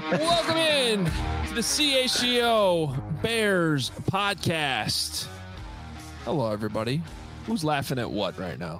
Welcome in to the CHGO Bears podcast. Hello, everybody. Who's laughing at what right now?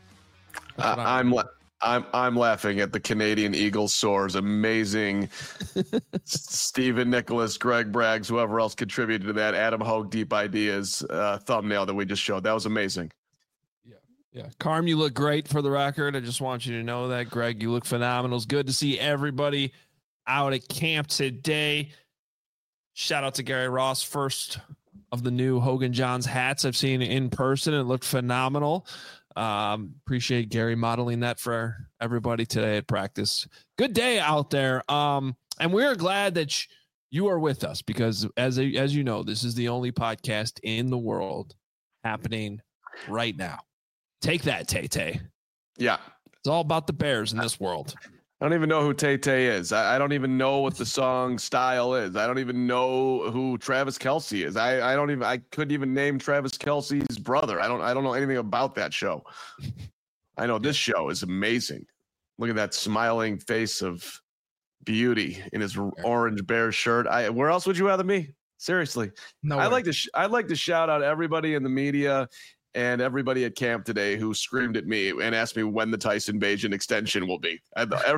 I'm laughing at the Canadian Eagle Soars amazing Stephen Nicholas, Greg Braggs, whoever else contributed to that Adam Hogue Deep Ideas thumbnail that we just showed. That was amazing. Yeah. Carm, you look great for the record. I just want you to know that. Greg, you look phenomenal. It's good to see everybody out at camp today. Shout out to Gary Ross, first of the new Hogan Johns hats I've seen in person. It looked phenomenal. Appreciate Gary modeling that for everybody today at practice. Good day out there. And we're glad that you are with us because as you know, this is the only podcast in the world happening right now. Take that, Tay-Tay. Yeah. It's all about the Bears in this world. I don't even know who Tay-Tay is. I don't even know what the song style is. I don't even know who Travis Kelce is. I couldn't even name Travis Kelce's brother. I don't know anything about that show. I know this show is amazing. Look at that smiling face of beauty in his orange Bears shirt. Where else would you rather me? Seriously. No. I'd like to shout out everybody in the media and everybody at camp today who screamed at me and asked me when the Tyson Bagent extension will be.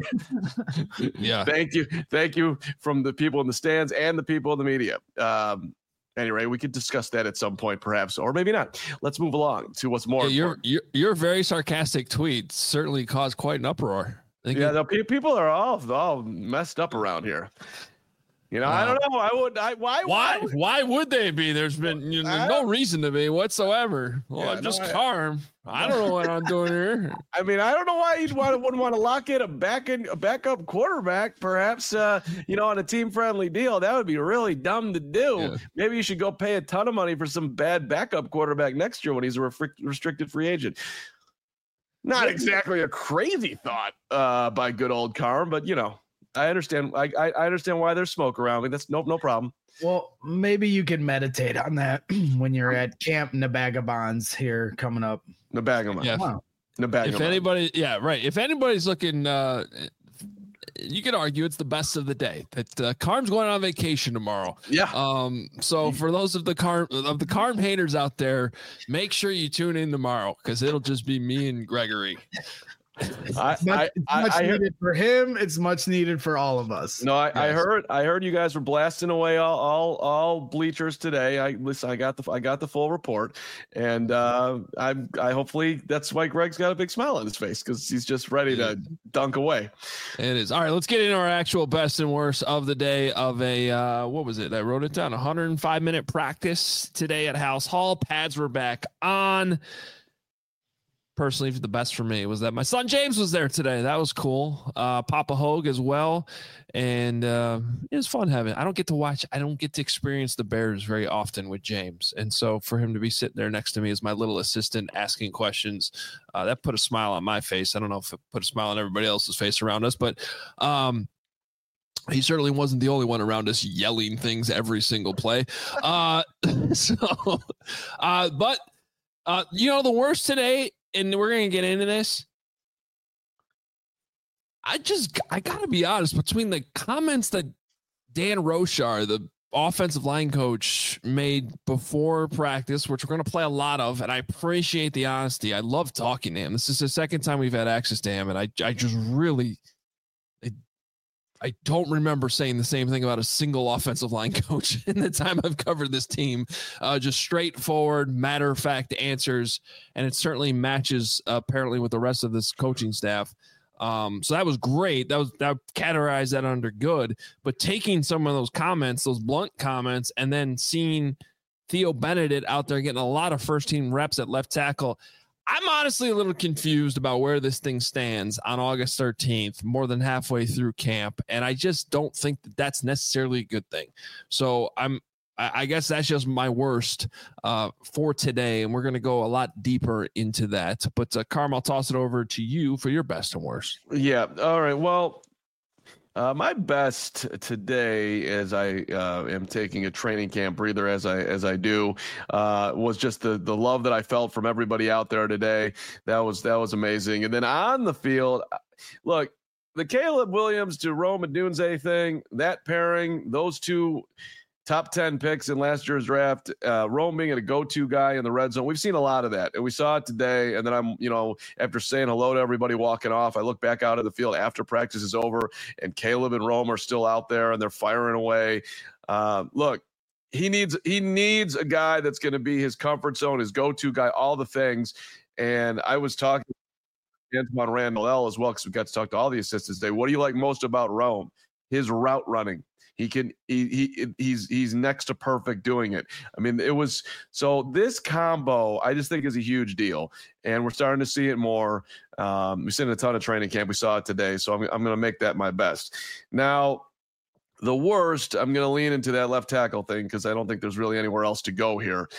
Yeah. Thank you from the people in the stands and the people in the media. Anyway, we could discuss that at some point, perhaps, or maybe not. Let's move along to what's more. Your very sarcastic tweet certainly caused quite an uproar. People are all messed up around here. You know, I don't know. Why would they be? There's been no reason to be whatsoever. Well, I'm just Carm. I don't know what I'm doing here. I mean, I don't know why wouldn't want to lock in a backup quarterback, perhaps, on a team-friendly deal. That would be really dumb to do. Yeah. Maybe you should go pay a ton of money for some bad backup quarterback next year when he's a restricted free agent. Not exactly a crazy thought by good old Carm, but, I understand. I understand why there's smoke around me. That's no problem. Well, maybe you can meditate on that when you're at Camp Nabagabons here coming up. Nabagabons. Yeah. Wow. Nabagabons. If anybody, yeah, right. If anybody's looking, you could argue it's the best of the day. That Carm's going on vacation tomorrow. Yeah. So for those of the Carm haters out there, make sure you tune in tomorrow because it'll just be me and Gregory. It's much needed for him. It's much needed for all of us. No, I heard you guys were blasting away all bleachers today. I got the full report, and I hopefully that's why Greg's got a big smile on his face because he's just ready to dunk away. It is. All right, let's get into our actual best and worst of the day of a what was it? I wrote it down. 105-minute practice today at House Hall. Pads were back on. Personally, the best for me was that my son James was there today. That was cool. Papa Hogue as well. And it was fun having I don't get to experience the Bears very often with James. And so for him to be sitting there next to me as my little assistant asking questions, that put a smile on my face. I don't know if it put a smile on everybody else's face around us, but he certainly wasn't the only one around us yelling things every single play. But the worst today, and we're going to get into this. I got to be honest, between the comments that Dan Roshar, the offensive line coach, made before practice, which we're going to play a lot of, and I appreciate the honesty. I love talking to him. This is the second time we've had access to him, and I just really – I don't remember saying the same thing about a single offensive line coach in the time I've covered this team. Just straightforward, matter-of-fact answers, and it certainly matches apparently with the rest of this coaching staff. So that was great. That categorized that under good. But taking some of those comments, those blunt comments, and then seeing Theo Benedict out there getting a lot of first-team reps at left tackle, I'm honestly a little confused about where this thing stands on August 13th, more than halfway through camp. And I just don't think that that's necessarily a good thing. So I guess that's just my worst for today. And we're going to go a lot deeper into that. But Carm, I'll toss it over to you for your best and worst. Yeah. All right. Well, my best today, as I am taking a training camp breather as I do, was just the love that I felt from everybody out there today. That was amazing. And then on the field, look, the Caleb Williams to Rome Odunze thing, that pairing, those two top 10 picks in last year's draft, Rome being a go-to guy in the red zone. We've seen a lot of that, and we saw it today. And then after saying hello to everybody walking off, I look back out of the field after practice is over, and Caleb and Rome are still out there, and they're firing away. Look, he needs a guy that's going to be his comfort zone, his go-to guy, all the things. And I was talking to Antoine Randall as well, because we got to talk to all the assistants today. What do you like most about Rome? His route running. He's next to perfect doing it. I mean, so this combo, I just think is a huge deal, and we're starting to see it more. We've seen a ton of training camp. We saw it today, so I'm going to make that my best. Now, the worst, I'm going to lean into that left tackle thing because I don't think there's really anywhere else to go here.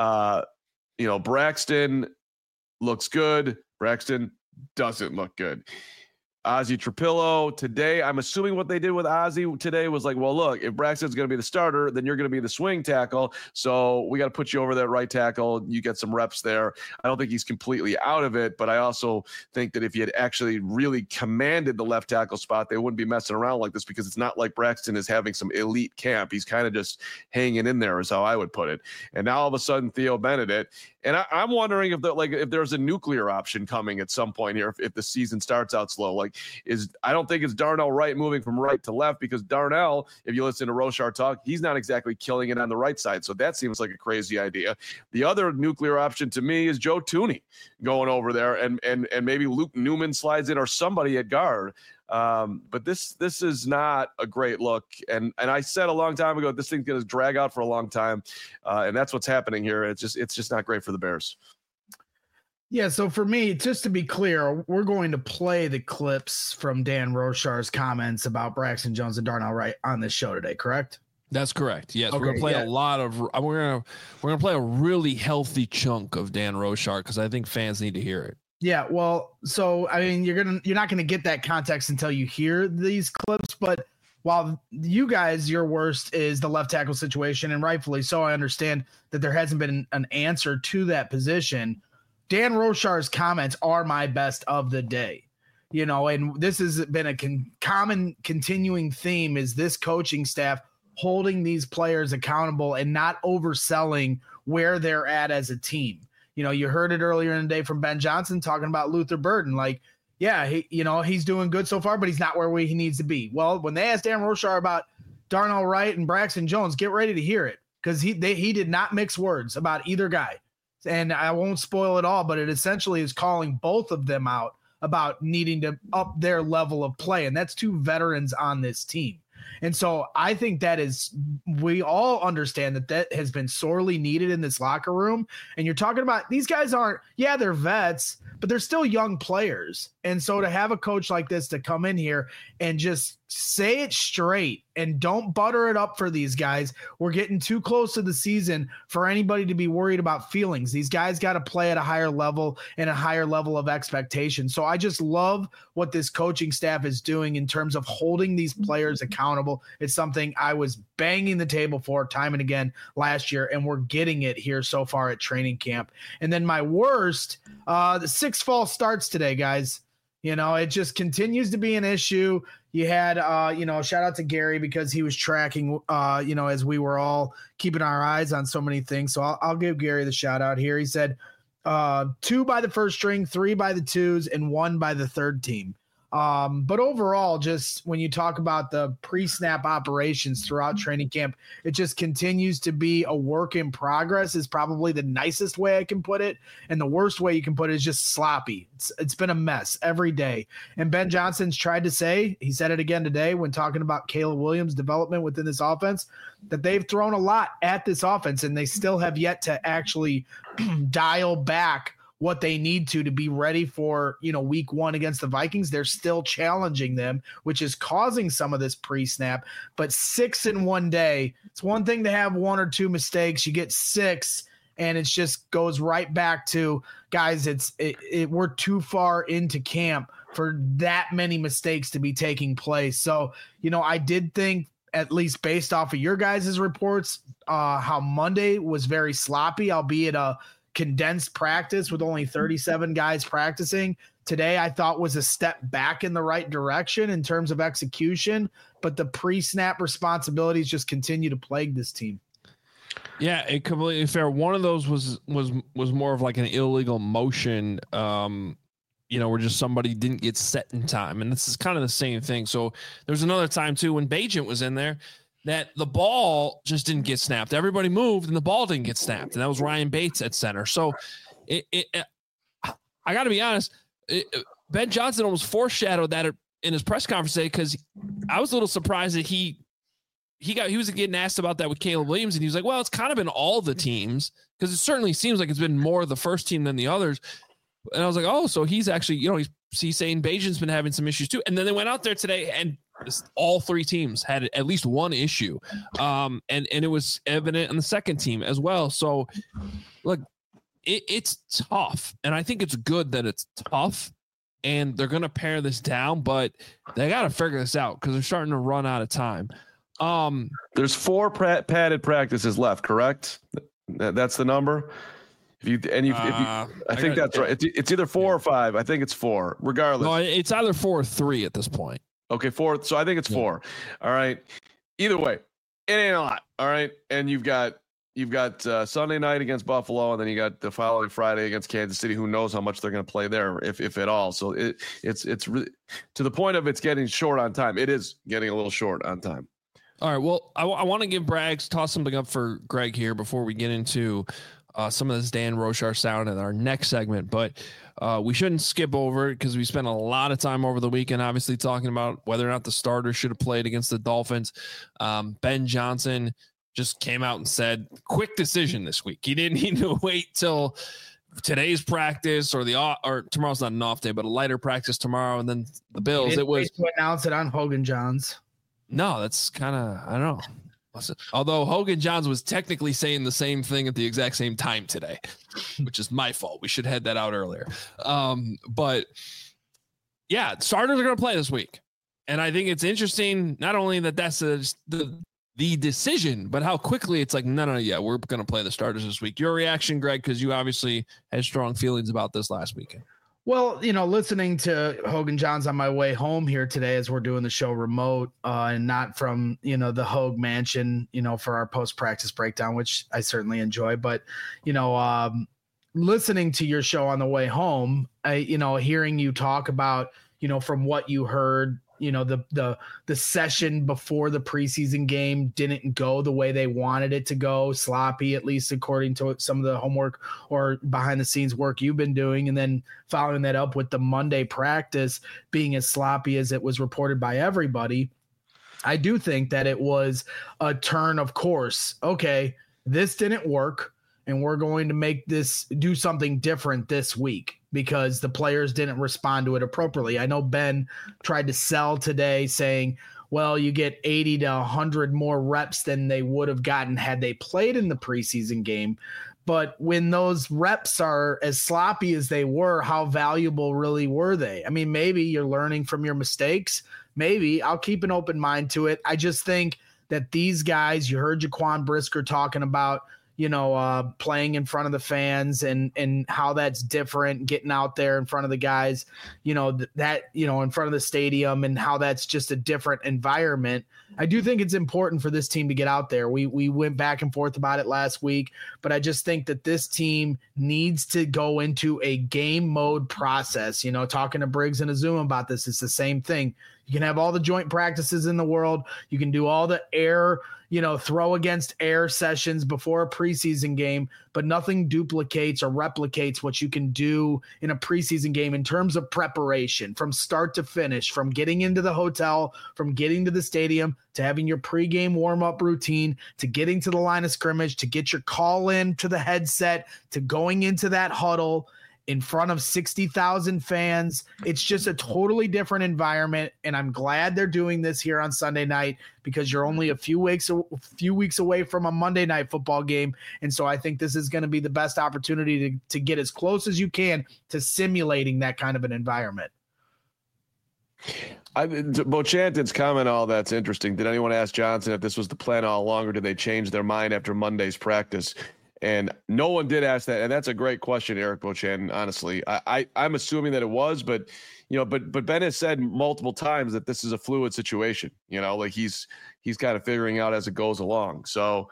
Braxton looks good. Braxton doesn't look good. Ozzie Trapillo today, I'm assuming what they did with Ozzie today was like, well, look, if Braxton's going to be the starter, then you're going to be the swing tackle. So we got to put you over that right tackle. You get some reps there. I don't think he's completely out of it, but I also think that if he had actually really commanded the left tackle spot, they wouldn't be messing around like this, because it's not like Braxton is having some elite camp. He's kind of just hanging in there is how I would put it. And now all of a sudden Theo Benedict, and I'm wondering if there's a nuclear option coming at some point here, if the season starts out slow. I don't think it's Darnell Wright moving from right to left, because Darnell, if you listen to Roshar talk, he's not exactly killing it on the right side. So that seems like a crazy idea. The other nuclear option to me is Joe Thuney going over there, and maybe Luke Newman slides in, or somebody at guard. But this is not a great look. And I said a long time ago, this thing's going to drag out for a long time. And that's what's happening here. It's just not great for the Bears. Yeah. So for me, just to be clear, we're going to play the clips from Dan Roshar's comments about Braxton Jones and Darnell Wright on this show today, correct? That's correct. Yes, okay, we're gonna play a lot of. We're gonna play a really healthy chunk of Dan Roshar, because I think fans need to hear it. Yeah, well, so I mean, you're not gonna get that context until you hear these clips. But while you guys, your worst is the left tackle situation, and rightfully so, I understand that there hasn't been an answer to that position. Dan Roshar's comments are my best of the day, and this has been a common continuing theme: is this coaching staff holding these players accountable and not overselling where they're at as a team. You heard it earlier in the day from Ben Johnson talking about Luther Burden. Like, yeah, he's doing good so far, but he's not where he needs to be. Well, when they asked Dan Roshar about Darnell Wright and Braxton Jones, get ready to hear it, because he did not mix words about either guy. And I won't spoil it all, but it essentially is calling both of them out about needing to up their level of play. And that's two veterans on this team. And so I think we all understand that has been sorely needed in this locker room. And you're talking about these guys they're vets, but they're still young players. And so to have a coach like this to come in here and just say it straight and don't butter it up for these guys. We're getting too close to the season for anybody to be worried about feelings. These guys got to play at a higher level and a higher level of expectation. So I just love what this coaching staff is doing in terms of holding these players accountable. It's something I was banging the table for time and again last year, and we're getting it here so far at training camp. And then my worst, the 6 false starts today, guys. It just continues to be an issue. You had, shout out to Gary, because he was tracking, as we were all keeping our eyes on so many things. So I'll give Gary the shout out here. He said 2 by the first string, 3 by the twos, and 1 by the third team. But overall, just when you talk about the pre-snap operations throughout training camp, it just continues to be a work in progress is probably the nicest way I can put it. And the worst way you can put it is just sloppy. It's been a mess every day. And Ben Johnson's tried to say, he said it again today when talking about Caleb Williams' development within this offense, that they've thrown a lot at this offense and they still have yet to actually dial back what they need to be ready for, week 1 against the Vikings. They're still challenging them, which is causing some of this pre-snap. But 6 in one day, it's one thing to have 1 or 2 mistakes. You get 6, and it just goes right back to, guys, we're too far into camp for that many mistakes to be taking place. So, I did think, at least based off of your guys' reports, how Monday was very sloppy, albeit a condensed practice with only 37 guys practicing today, I thought was a step back in the right direction in terms of execution, but the pre-snap responsibilities just continue to plague this team. Yeah, it completely fair. One of those was more of like an illegal motion, where just somebody didn't get set in time. And this is kind of the same thing. So there's another time too when Bagent was in there that the ball just didn't get snapped. Everybody moved and the ball didn't get snapped. And that was Ryan Bates at center. So I got to be honest, Ben Johnson almost foreshadowed that in his press conference today, because I was a little surprised that he was getting asked about that with Caleb Williams, and he was like, well, it's kind of been all the teams, because it certainly seems like it's been more the first team than the others. And I was like, oh, so he's actually, he's saying Bagent's been having some issues too. And then they went out there today and all three teams had at least one issue. And it was evident on the second team as well. So look, it's tough. And I think it's good that it's tough and they're going to pare this down, but they got to figure this out because they're starting to run out of time. There's 4 padded practices left, correct? That's the number. I think that's right. It's either 4 or 5. I think it's 4. Regardless, no, it's either 4 or 3 at this point. Okay, 4. So I think it's 4. All right. Either way, it ain't a lot. All right, and you've got Sunday night against Buffalo, and then you got the following Friday against Kansas City. Who knows how much they're going to play there, if at all. So it's really to the point of it's getting short on time. It is getting a little short on time. All right. Well, I want to give Braggs, toss something up for Greg here before we get into some of this Dan Roshar sound in our next segment, but we shouldn't skip over it because we spent a lot of time over the weekend, obviously talking about whether or not the starters should have played against the Dolphins. Ben Johnson just came out and said, quick decision this week. He didn't need to wait till today's practice or tomorrow's not an off day, but a lighter practice tomorrow. And then the Bills, it was to announce it on Hogan Johns. No, that's kind of, I don't know. Although Hogan Johns was technically saying the same thing at the exact same time today, which is my fault. We should have had that out earlier. But yeah, starters are going to play this week. And I think it's interesting, not only that that's the decision, but how quickly it's like, no, yeah, we're going to play the starters this week. Your reaction, Greg, because you obviously had strong feelings about this last weekend. Well, listening to Hogan Johns on my way home here today as we're doing the show remote and not from, the Hogue Mansion, for our post-practice breakdown, which I certainly enjoy. But, listening to your show on the way home, hearing you talk about, from what you heard, the session before the preseason game didn't go the way they wanted it to go, sloppy, at least according to some of the homework or behind the scenes work you've been doing. And then following that up with the Monday practice being as sloppy as it was reported by everybody. I do think that it was a turn of course. Okay, this didn't work, and we're going to do something different this week because the players didn't respond to it appropriately. I know Ben tried to sell today saying, well, you get 80 to 100 more reps than they would have gotten had they played in the preseason game. But when those reps are as sloppy as they were, how valuable really were they? I mean, maybe you're learning from your mistakes. Maybe. I'll keep an open mind to it. I just think that these guys, you heard Jaquan Brisker talking about, playing in front of the fans and how that's different, getting out there in front of the guys, in front of the stadium, and how that's just a different environment. I do think it's important for this team to get out there. We went back and forth about it last week, but I just think that this team needs to go into a game mode process. Talking to Briggs and Azuma about this, it's the same thing. You can have all the joint practices in the world. You can do all the air, throw against air sessions before a preseason game, but nothing duplicates or replicates what you can do in a preseason game in terms of preparation from start to finish, from getting into the hotel, from getting to the stadium, to having your pregame warm-up routine, to getting to the line of scrimmage, to get your call in to the headset, to going into that huddle in front of 60,000 fans. It's just a totally different environment, and I'm glad they're doing this here on Sunday night because you're only a few weeks away from a Monday night football game, and so I think this is going to be the best opportunity to get as close as you can to simulating that kind of an environment. Bochantin's comment, all that's interesting. Did anyone ask Johnson if this was the plan all along, or did they change their mind after Monday's practice? And no one did ask that. And that's a great question, Eric Beauchamp, honestly. I'm assuming that it was, but Ben has said multiple times that this is a fluid situation, like he's kind of figuring out as it goes along. So,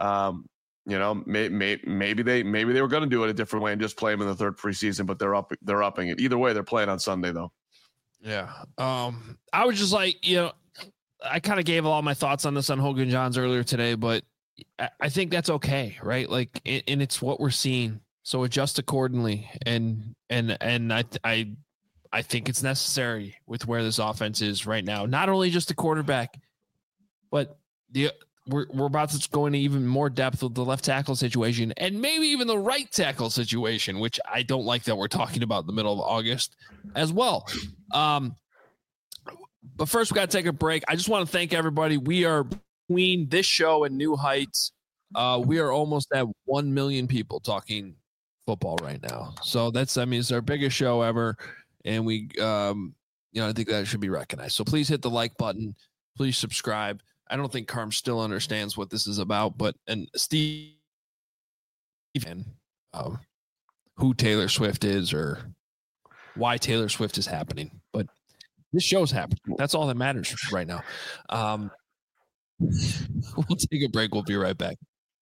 maybe they were going to do it a different way and just play him in the third preseason, but they're upping it. Either way, they're playing on Sunday though. Yeah. I was just like, I kind of gave all my thoughts on this on Hogan Johns earlier today, but I think that's okay, right? Like, and it's what we're seeing, so adjust accordingly. And I think it's necessary with where this offense is right now. Not only just the quarterback, but we're about to go into even more depth with the left tackle situation and maybe even the right tackle situation, which I don't like that we're talking about in the middle of August as well. But first, we got to take a break. I just want to thank everybody. We are between this show and New Heights. We are almost at 1 million people talking football right now. So it's our biggest show ever. And we, I think that should be recognized. So please hit the like button. Please subscribe. I don't think Carm still understands what this is about, and Steve, who Taylor Swift is or why Taylor Swift is happening. But this show's happening. That's all that matters right now. We'll take a break. We'll be right back.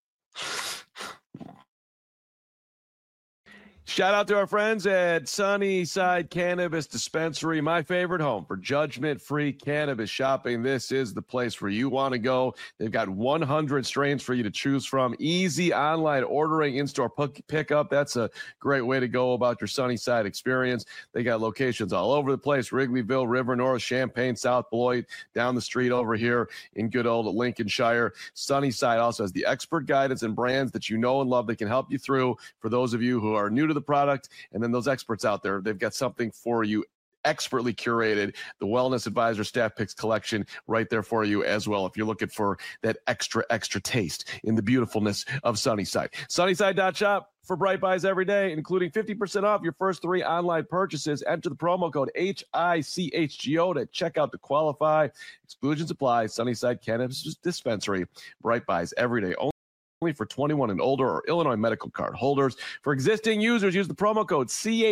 Shout out to our friends at Sunnyside Cannabis Dispensary, my favorite home for judgment-free cannabis shopping. This is the place where you want to go. They've got 100 strains for you to choose from. Easy online ordering, in-store pickup. That's a great way to go about your Sunnyside experience. They got locations all over the place: Wrigleyville, River North, Champaign, South Beloit, down the street over here in good old Lincolnshire. Sunnyside also has the expert guidance and brands that you know and love that can help you through. For those of you who are new to the product, and then those experts out there, they've got something for you expertly curated. The Wellness Advisor Staff Picks collection right there for you as well, if you're looking for that extra taste in the beautifulness of Sunnyside. Sunnyside.shop for Bright Buys every day, including 50% off your first 3 online purchases. Enter the promo code HICHGO to check out to qualify. Exclusions apply. Sunnyside Cannabis Dispensary. Bright Buys every day. Only for 21 and older or Illinois medical card holders. For existing users, use the promo code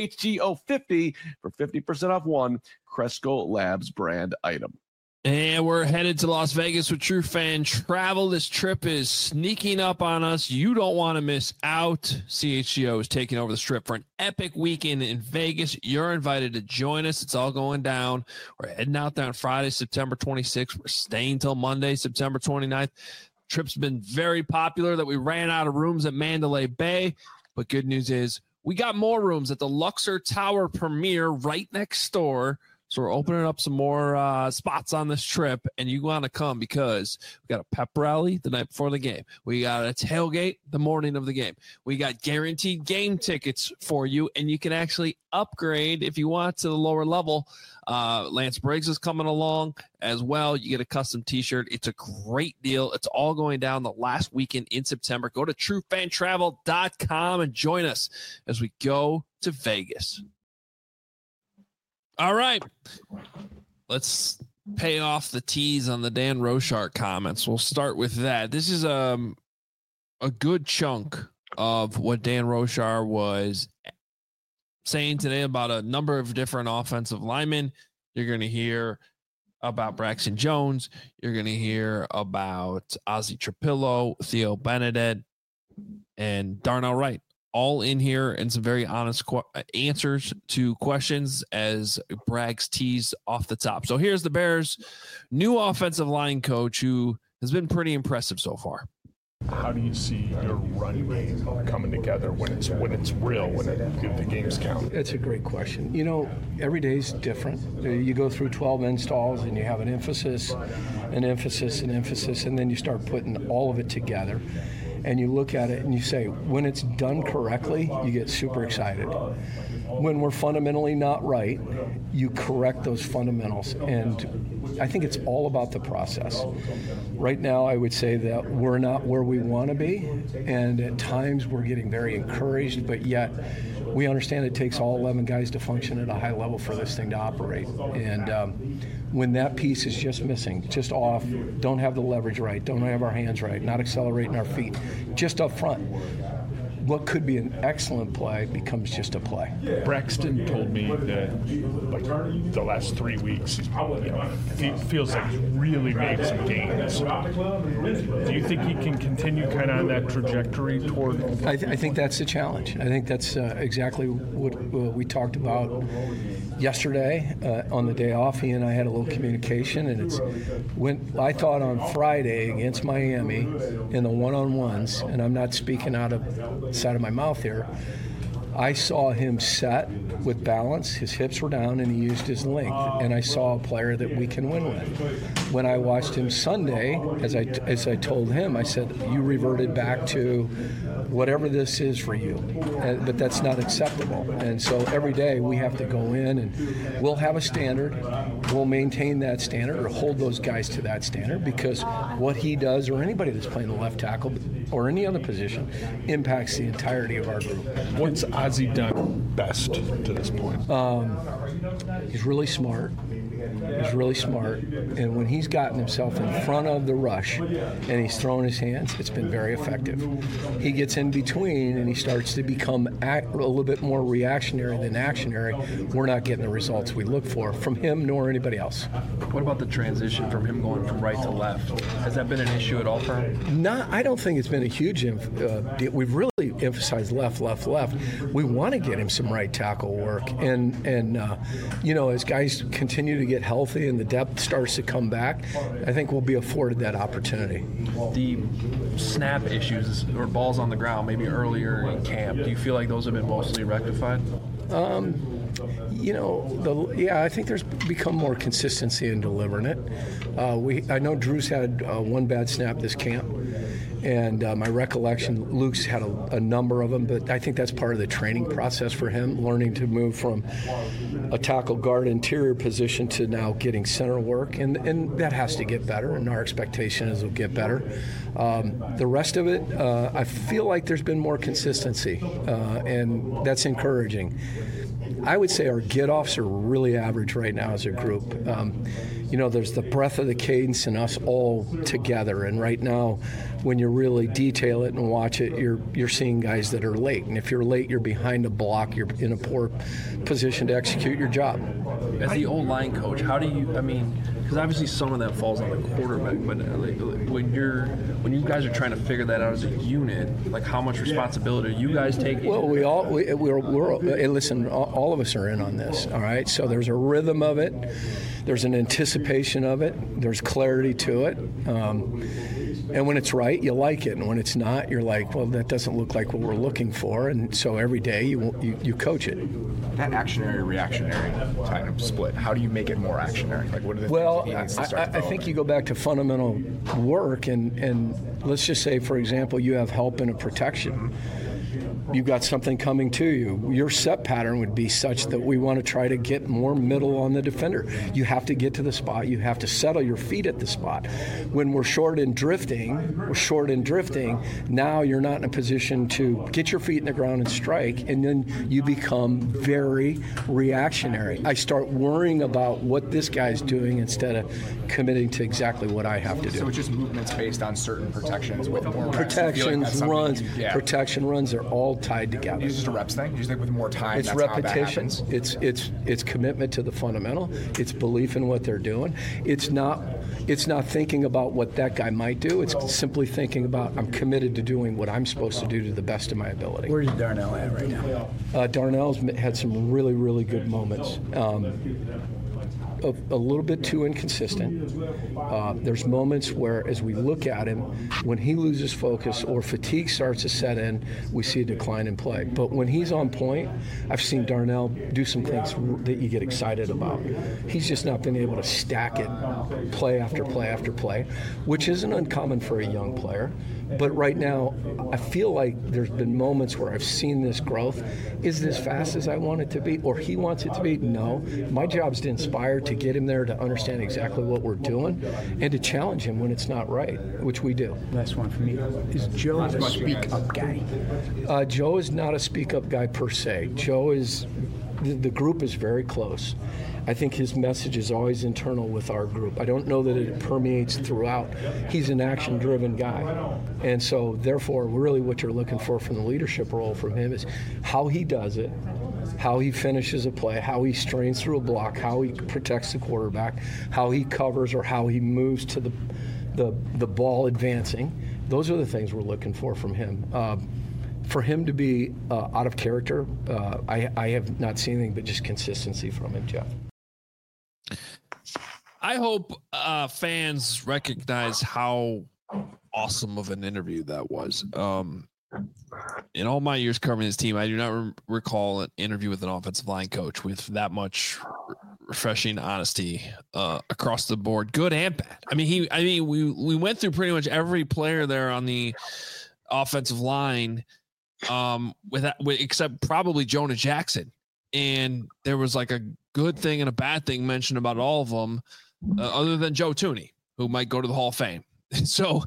CHGO50 for 50% off one Cresco Labs brand item. And we're headed to Las Vegas with True Fan Travel. This trip is sneaking up on us. You don't want to miss out. CHGO is taking over the Strip for an epic weekend in Vegas. You're invited to join us. It's all going down. We're heading out there on Friday, September 26th. We're staying till Monday, September 29th. Trip's been very popular that we ran out of rooms at Mandalay Bay, but good news is we got more rooms at the Luxor Tower Premier right next door. So we're opening up some more spots on this trip, and you want to come because we got a pep rally the night before the game. We got a tailgate the morning of the game. We got guaranteed game tickets for you, and you can actually upgrade if you want to the lower level. Lance Briggs is coming along as well. You get a custom t-shirt. It's a great deal. It's all going down the last weekend in September. Go to truefantravel.com and join us as we go to Vegas. All right, let's pay off the tease on the Dan Rochar comments. We'll start with that. This is a good chunk of what Dan Rochar was saying today about a number of different offensive linemen. You're going to hear about Braxton Jones. You're going to hear about Ozzie Trapillo, Theo Benedette, and Darnell Wright. All in here and some very honest answers to questions as Braggs teased off the top. So here's the Bears' new offensive line coach who has been pretty impressive so far. How do you see your run game coming together when it's real, when the games count? It's a great question. Every day's different. You go through 12 installs and you have an emphasis, and then you start putting all of it together. And you look at it and you say, when it's done correctly, you get super excited. When we're fundamentally not right, you correct those fundamentals. And I think it's all about the process. Right now, I would say that we're not where we want to be. And at times we're getting very encouraged, but yet we understand it takes all 11 guys to function at a high level for this thing to operate. And when that piece is just missing, just off, don't have the leverage right, don't have our hands right, not accelerating our feet, just up front, what could be an excellent play becomes just a play. Braxton told me that like the last 3 weeks, he feels like he's really made some gains. Do you think he can continue kind of on that trajectory toward? I think that's the challenge. I think that's exactly what we talked about yesterday on the day off. He and I had a little communication, and it's when I thought on Friday against Miami in the one-on-ones, and I'm not speaking out of the side of my mouth here, I saw him set with balance. His hips were down, and he used his length. And I saw a player that we can win with. When I watched him Sunday, as I told him, I said, "You reverted back to whatever this is for you, but that's not acceptable." And so every day we have to go in, and we'll have a standard. We'll maintain that standard or hold those guys to that standard, because what he does, or anybody that's playing the left tackle or any other position, impacts the entirety of our group. What's Ozzie done best to this point? He's really smart. He's really smart. And when he's gotten himself in front of the rush and he's throwing his hands, it's been very effective. He gets in between and he starts to become a little bit more reactionary than actionary. We're not getting the results we look for from him nor anybody else. What about the transition from him going from right to left? Has that been an issue at all for him? I don't think it's been a huge we've really emphasized left. We want to get him some right tackle work. And as guys continue to get healthy and the depth starts to come back, I think we'll be afforded that opportunity. The snap issues or balls on the ground maybe earlier in camp, do you feel like those have been mostly rectified? I think there's become more consistency in delivering it. I know Drew's had one bad snap this camp, and my recollection, Luke's had a number of them, but I think that's part of the training process for him, learning to move from a tackle guard interior position to now getting center work, and that has to get better, and our expectation is it'll get better. The rest of it, I feel like there's been more consistency, and that's encouraging. I would say our get-offs are really average right now as a group. There's the breadth of the cadence and us all together. And right now, when you really detail it and watch it, you're seeing guys that are late. And if you're late, you're behind a block. You're in a poor position to execute your job. As the O-line coach, how do you? Because obviously some of that falls on the quarterback. But when you guys are trying to figure that out as a unit, like how much responsibility are you guys taking? Well, listen, all of us are in on this. All right, so there's a rhythm of it. There's an anticipation of it. There's clarity to it. And when it's right, you like it. And when it's not, you're like, well, that doesn't look like what we're looking for. And so every day you coach it. That actionary, reactionary kind of split, how do you make it more actionary? Like, what are the well, things he needs to start I think you go back to fundamental work. And let's just say, for example, you have help in a protection. You've got something coming to you. Your set pattern would be such that we want to try to get more middle on the defender. You have to get to the spot. You have to settle your feet at the spot. When we're short and drifting, now you're not in a position to get your feet in the ground and strike, and then you become very reactionary. I start worrying about what this guy's doing instead of committing to exactly what I have to do. So it's just movements based on certain protections with more protections, runs. Protection runs are all tied together. It's just a reps thing? You think with more time, it's that's repetition. How that happens? It's commitment to the fundamental. It's belief in what they're doing. It's not thinking about what that guy might do. It's simply thinking about, I'm committed to doing what I'm supposed to do to the best of my ability. Where's Darnell at right now? Darnell's had some really, really good moments. A little bit too inconsistent. There's moments where, as we look at him, when he loses focus or fatigue starts to set in, we see a decline in play. But when he's on point, I've seen Darnell do some things that you get excited about. He's just not been able to stack it play after play after play, which isn't uncommon for a young player. But right now, I feel like there's been moments where I've seen this growth. Is it as fast as I want it to be, or he wants it to be? No. My job's to inspire, to get him there, to understand exactly what we're doing, and to challenge him when it's not right, which we do. Last one for me. Is Joe a speak-up guy? Joe is not a speak-up guy per se. Joe is the group is very close. I think his message is always internal with our group. I don't know that it permeates throughout. He's an action-driven guy. And so, therefore, really what you're looking for from the leadership role from him is how he does it, how he finishes a play, how he strains through a block, how he protects the quarterback, how he covers or how he moves to the ball advancing. Those are the things we're looking for from him. For him to be out of character, I have not seen anything but just consistency from him, Jeff. I hope fans recognize how awesome of an interview that was. In all my years covering this team, I do not recall an interview with an offensive line coach with that much refreshing honesty across the board, good and bad. I mean, we went through pretty much every player there on the offensive line, except probably Jonah Jackson, and there was like a good thing and a bad thing mentioned about all of them, other than Joe Thuney, who might go to the Hall of Fame. So,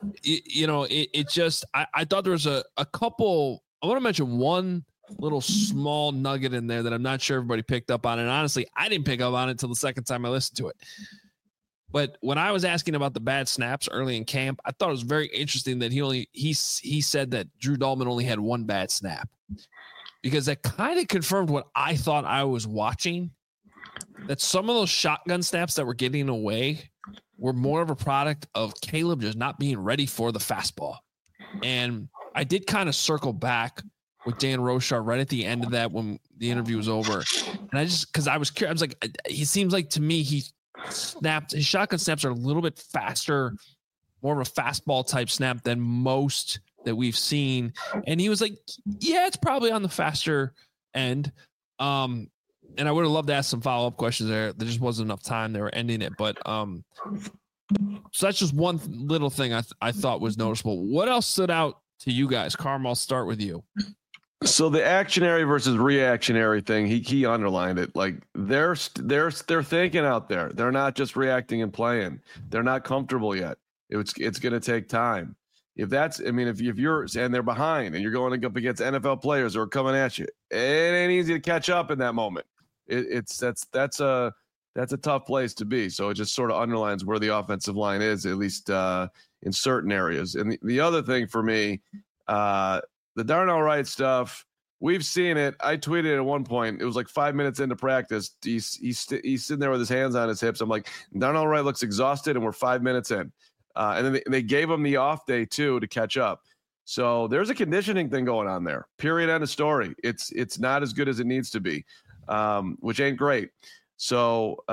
it just, I thought there was a couple. I want to mention one little small nugget in there that I'm not sure everybody picked up on. And honestly, I didn't pick up on it until the second time I listened to it. But when I was asking about the bad snaps early in camp, I thought it was very interesting that he said that Drew Dalman only had one bad snap, because that kind of confirmed what I thought I was watching, that some of those shotgun snaps that were getting away were more of a product of Caleb just not being ready for the fastball. And I did kind of circle back with Dan Rochar right at the end of that when the interview was over. And because I was curious, I was like, he seems like to me, his shotgun snaps are a little bit faster, more of a fastball type snap than most that we've seen. And he was like, yeah, it's probably on the faster end. And I would have loved to ask some follow-up questions there. There just wasn't enough time. They were ending it. But so that's just one little thing I thought was noticeable. What else stood out to you guys? Carm, I'll start with you. So the actionary versus reactionary thing, he underlined it. Like they're thinking out there. They're not just reacting and playing. They're not comfortable yet. It's going to take time. If you're and they're behind and you're going up against NFL players who are coming at you, it ain't easy to catch up in that moment. That's a tough place to be. So it just sort of underlines where the offensive line is, at least in certain areas. And the other thing for me, the Darnell Wright stuff, we've seen it. I tweeted at one point, it was like 5 minutes into practice. He's sitting there with his hands on his hips. I'm like, Darnell Wright looks exhausted, and we're 5 minutes in. And then they gave him the off day too to catch up. So there's a conditioning thing going on there. Period. End of story. It's not as good as it needs to be, which ain't great. So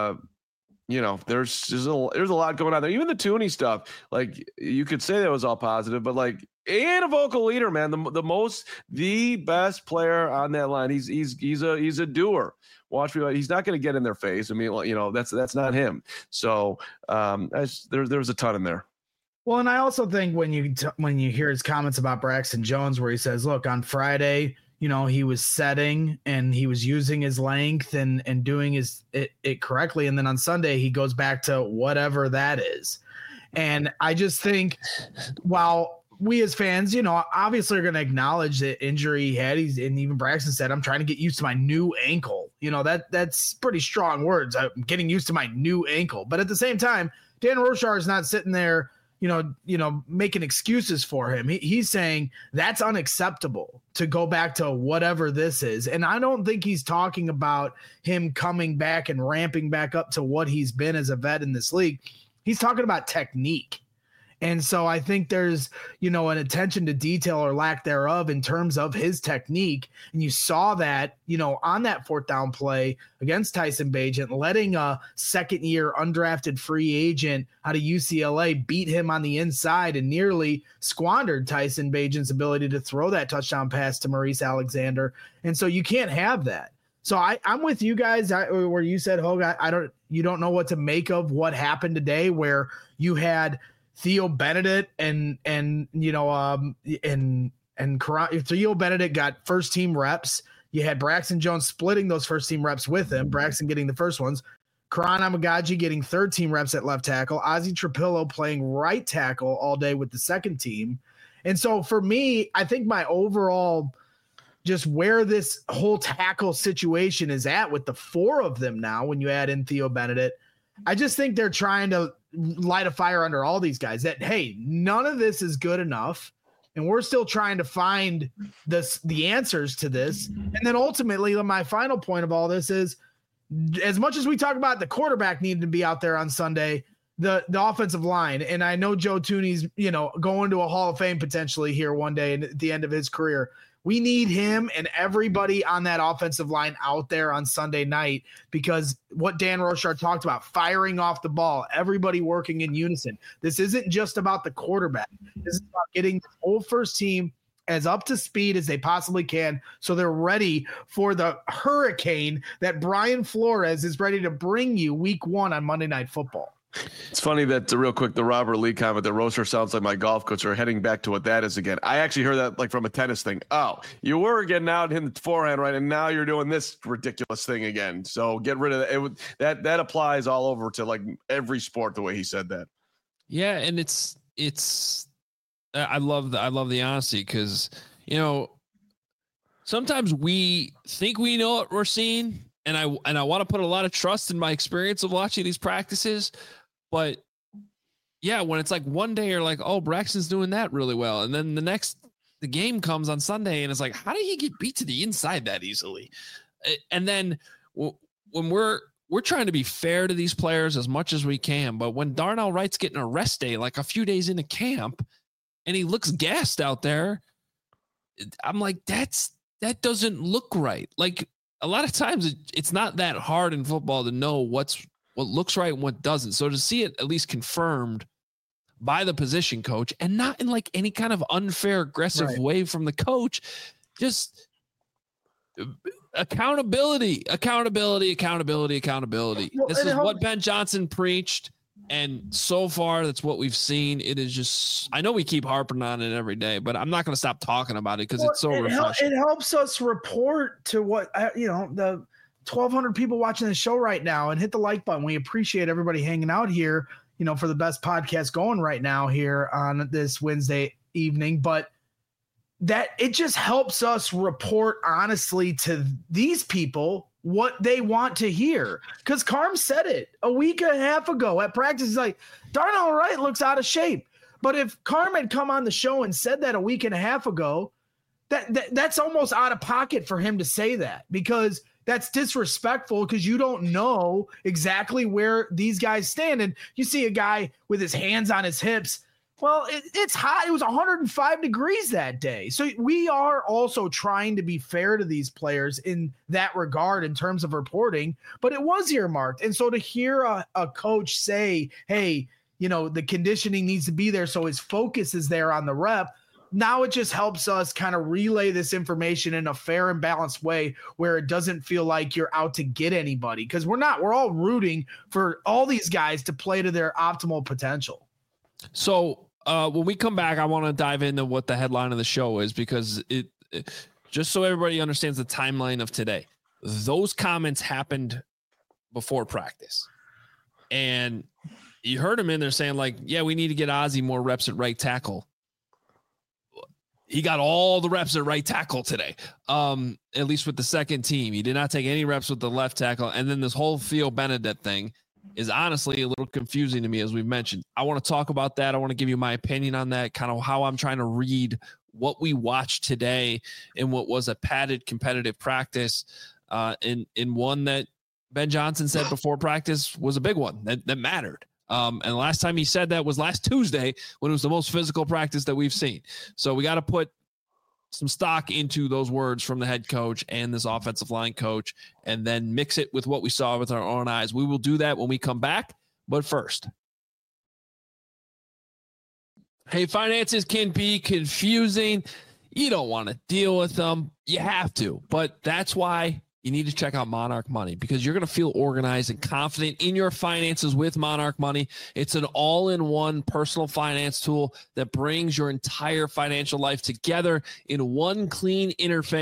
there's a lot going on there. Even the Thuney stuff, like you could say that was all positive, but like, and a vocal leader, man, the best player on that line. He's a doer. Watch me. He's not going to get in their face. I mean, that's not him. So there was a ton in there. Well, and I also think when you hear his comments about Braxton Jones, where he says, look, on Friday, he was setting and he was using his length and doing it correctly. And then on Sunday, he goes back to whatever that is. And I just think, while we as fans, obviously are going to acknowledge the injury he had. And even Braxton said, I'm trying to get used to my new ankle. That's pretty strong words. I'm getting used to my new ankle. But at the same time, Dan Rochar is not sitting there, making excuses for him. He's saying that's unacceptable to go back to whatever this is. And I don't think he's talking about him coming back and ramping back up to what he's been as a vet in this league. He's talking about technique. And so I think there's, an attention to detail or lack thereof in terms of his technique. And you saw that, on that fourth down play against Tyson Bagent, letting a second-year undrafted free agent out of UCLA beat him on the inside and nearly squandered Tyson Bagent's ability to throw that touchdown pass to Maurice Alexander. And so you can't have that. So I'm with you guys where you said, Hogue, you don't know what to make of what happened today, where you had Theo Benedict and Theo Benedict got first team reps. You had Braxton Jones splitting those first team reps with him, Braxton getting the first ones, Karan Amagaji getting third team reps at left tackle, Ozzie Trapillo playing right tackle all day with the second team. And so for me, I think my overall just where this whole tackle situation is at with the 4 of them now, when you add in Theo Benedict, I just think they're trying to light a fire under all these guys that, hey, none of this is good enough. And we're still trying to find the answers to this. And then ultimately, my final point of all this is, as much as we talk about the quarterback needing to be out there on Sunday, the offensive line, and I know Joe Thuney's, going to a Hall of Fame potentially here one day at the end of his career. We need him and everybody on that offensive line out there on Sunday night, because what Dan Rochard talked about, firing off the ball, everybody working in unison. This isn't just about the quarterback. This is about getting the whole first team as up to speed as they possibly can, so they're ready for the hurricane that Brian Flores is ready to bring you week 1 on Monday Night Football. It's funny that real quick, the Robert Lee comment that Rocher sounds like my golf coach, are heading back to what that is again. I actually heard that like from a tennis thing. Oh, you were getting out in the forehand, right? And now you're doing this ridiculous thing again. So get rid of it. That applies all over to like every sport, the way he said that. Yeah. And it's I love the honesty, because, sometimes we think we know what we're seeing. And I want to put a lot of trust in my experience of watching these practices. But yeah, when it's like one day you're like, oh, Braxton's doing that really well. And then the game comes on Sunday and it's like, how did he get beat to the inside that easily? And then when we're trying to be fair to these players as much as we can, but when Darnell Wright's getting a rest day, like a few days into camp, and he looks gassed out there, I'm like, that doesn't look right. Like, a lot of times it's not that hard in football to know what looks right and what doesn't. So to see it at least confirmed by the position coach, and not in like any kind of unfair, aggressive way from the coach, just accountability. This is what Ben Johnson preached. And so far, that's what we've seen. It is just, I know we keep harping on it every day, but I'm not going to stop talking about it because it's so refreshing. It helps us report to what, the 1,200 people watching the show right now, and hit the like button. We appreciate everybody hanging out here, for the best podcast going right now here on this Wednesday evening. But that it just helps us report honestly to these people what they want to hear. Because Carm said it a week and a half ago at practice. He's like, Darnell Wright looks out of shape. But if Carm had come on the show and said that a week and a half ago, that's almost out of pocket for him to say that, because that's disrespectful, because you don't know exactly where these guys stand. And you see a guy with his hands on his hips. Well, it's hot. It was 105 degrees that day. So we are also trying to be fair to these players in that regard in terms of reporting, but it was earmarked. And so to hear a coach say, hey, the conditioning needs to be there, so his focus is there on the rep, now it just helps us kind of relay this information in a fair and balanced way where it doesn't feel like you're out to get anybody, because we're not. We're all rooting for all these guys to play to their optimal potential. So when we come back, I want to dive into what the headline of the show is, because it just so everybody understands the timeline of today. Those comments happened before practice, and you heard him in there saying like, yeah, we need to get Ozzie more reps at right tackle. He got all the reps at right tackle today, at least with the second team. He did not take any reps with the left tackle. And then this whole Theo Benedict thing is honestly a little confusing to me, as we've mentioned. I want to talk about that. I want to give you my opinion on that, kind of how I'm trying to read what we watched today in what was a padded competitive practice, in one that Ben Johnson said before practice was a big one that mattered. And the last time he said that was last Tuesday, when it was the most physical practice that we've seen. So we got to put some stock into those words from the head coach and this offensive line coach, and then mix it with what we saw with our own eyes. We will do that when we come back. But first, hey, finances can be confusing. You don't want to deal with them. You have to, but that's why you need to check out Monarch Money, because you're going to feel organized and confident in your finances with Monarch Money. It's an all-in-one personal finance tool that brings your entire financial life together in one clean interface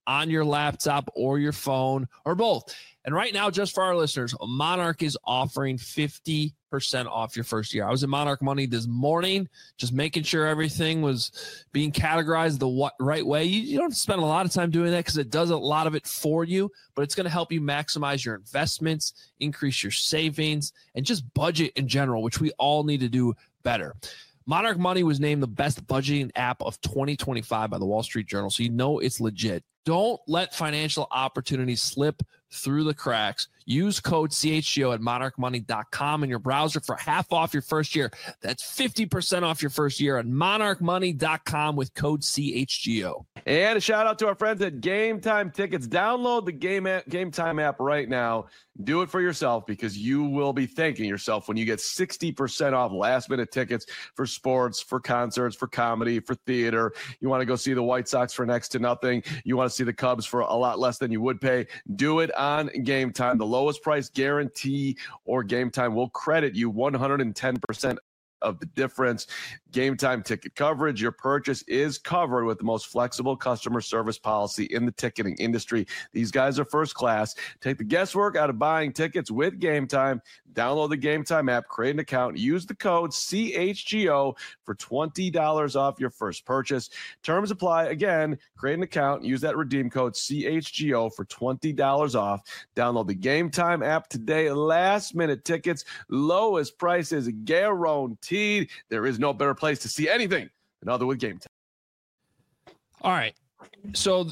on your laptop or your phone or both. And right now, just for our listeners, Monarch is offering 50% off your first year. I was in Monarch Money this morning, just making sure everything was being categorized the right way. You don't have to spend a lot of time doing that because it does a lot of it for you, but it's going to help you maximize your investments, increase your savings, and just budget in general, which we all need to do better. Monarch Money was named the best budgeting app of 2025 by the Wall Street Journal, so you know it's legit. Don't let financial opportunities slip through the cracks. Use code CHGO at monarchmoney.com in your browser for half off your first year. That's 50% off your first year at monarchmoney.com with code CHGO. And a shout out to our friends at Game Time Tickets. Download the Game Time app right now. Do it for yourself because you will be thanking yourself when you get 60% off last-minute tickets for sports, for concerts, for comedy, for theater. You want to go see the White Sox for next to nothing. You want to see the Cubs for a lot less than you would pay. Do it on Game Time. The lowest price guarantee or Game Time will credit you 110% of the difference. Game Time ticket coverage. Your purchase is covered with the most flexible customer service policy in the ticketing industry. These guys are first class. Take the guesswork out of buying tickets with Game Time. Download the Game Time app, create an account, use the code CHGO for $20 off your first purchase. Terms apply. Again, create an account, use that redeem code CHGO for $20 off. Download the Game Time app today. Last minute tickets, lowest prices guaranteed. There is no better place to see anything than other with Game Time. All right. So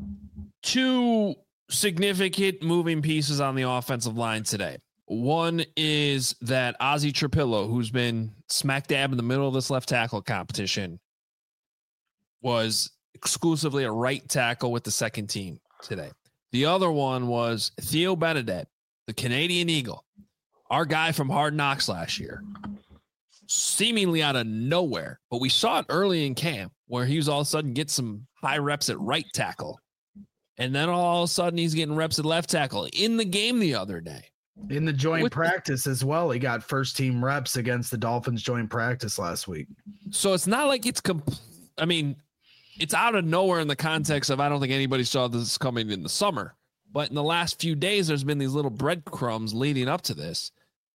2 significant moving pieces on the offensive line today. One is that Ozzy Trapillo, who's been smack dab in the middle of this left tackle competition, was exclusively a right tackle with the second team today. The other one was Theo Benedette, the Canadian Eagle, our guy from Hard Knocks last year, seemingly out of nowhere. But we saw it early in camp where he was all of a sudden get some high reps at right tackle. And then all of a sudden he's getting reps at left tackle in the game the other day. In the joint practice as well. He got first team reps against the Dolphins joint practice last week. So it's not like it's it's out of nowhere in the context of I don't think anybody saw this coming in the summer. But in the last few days, there's been these little breadcrumbs leading up to this.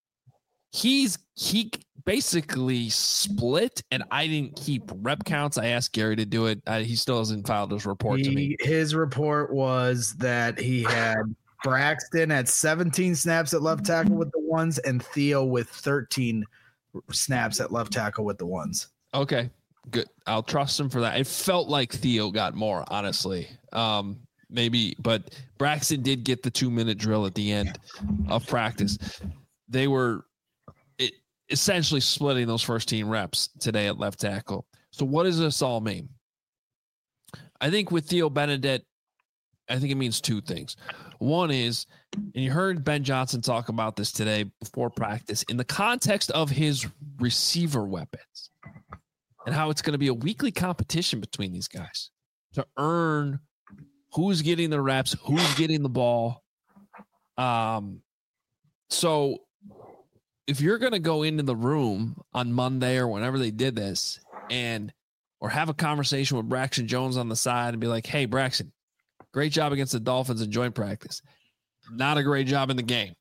He basically split, and I didn't keep rep counts. I asked Gary to do it. He still hasn't filed his report to me. His report was that he had Braxton at 17 snaps at left tackle with the ones and Theo with 13 snaps at left tackle with the ones. Okay, good. I'll trust him for that. It felt like Theo got more, honestly. Maybe, but Braxton did get the 2-minute drill at the end of practice. They were essentially splitting those first team reps today at left tackle. So what does this all mean? I think with Theo Benedette, I think it means 2 things. One is, and you heard Ben Johnson talk about this today before practice, in the context of his receiver weapons and how it's going to be a weekly competition between these guys to earn who's getting the reps, who's getting the ball. So if you're going to go into the room on Monday or whenever they did this or have a conversation with Braxton Jones on the side and be like, hey, Braxton, great job against the Dolphins in joint practice. Not a great job in the game.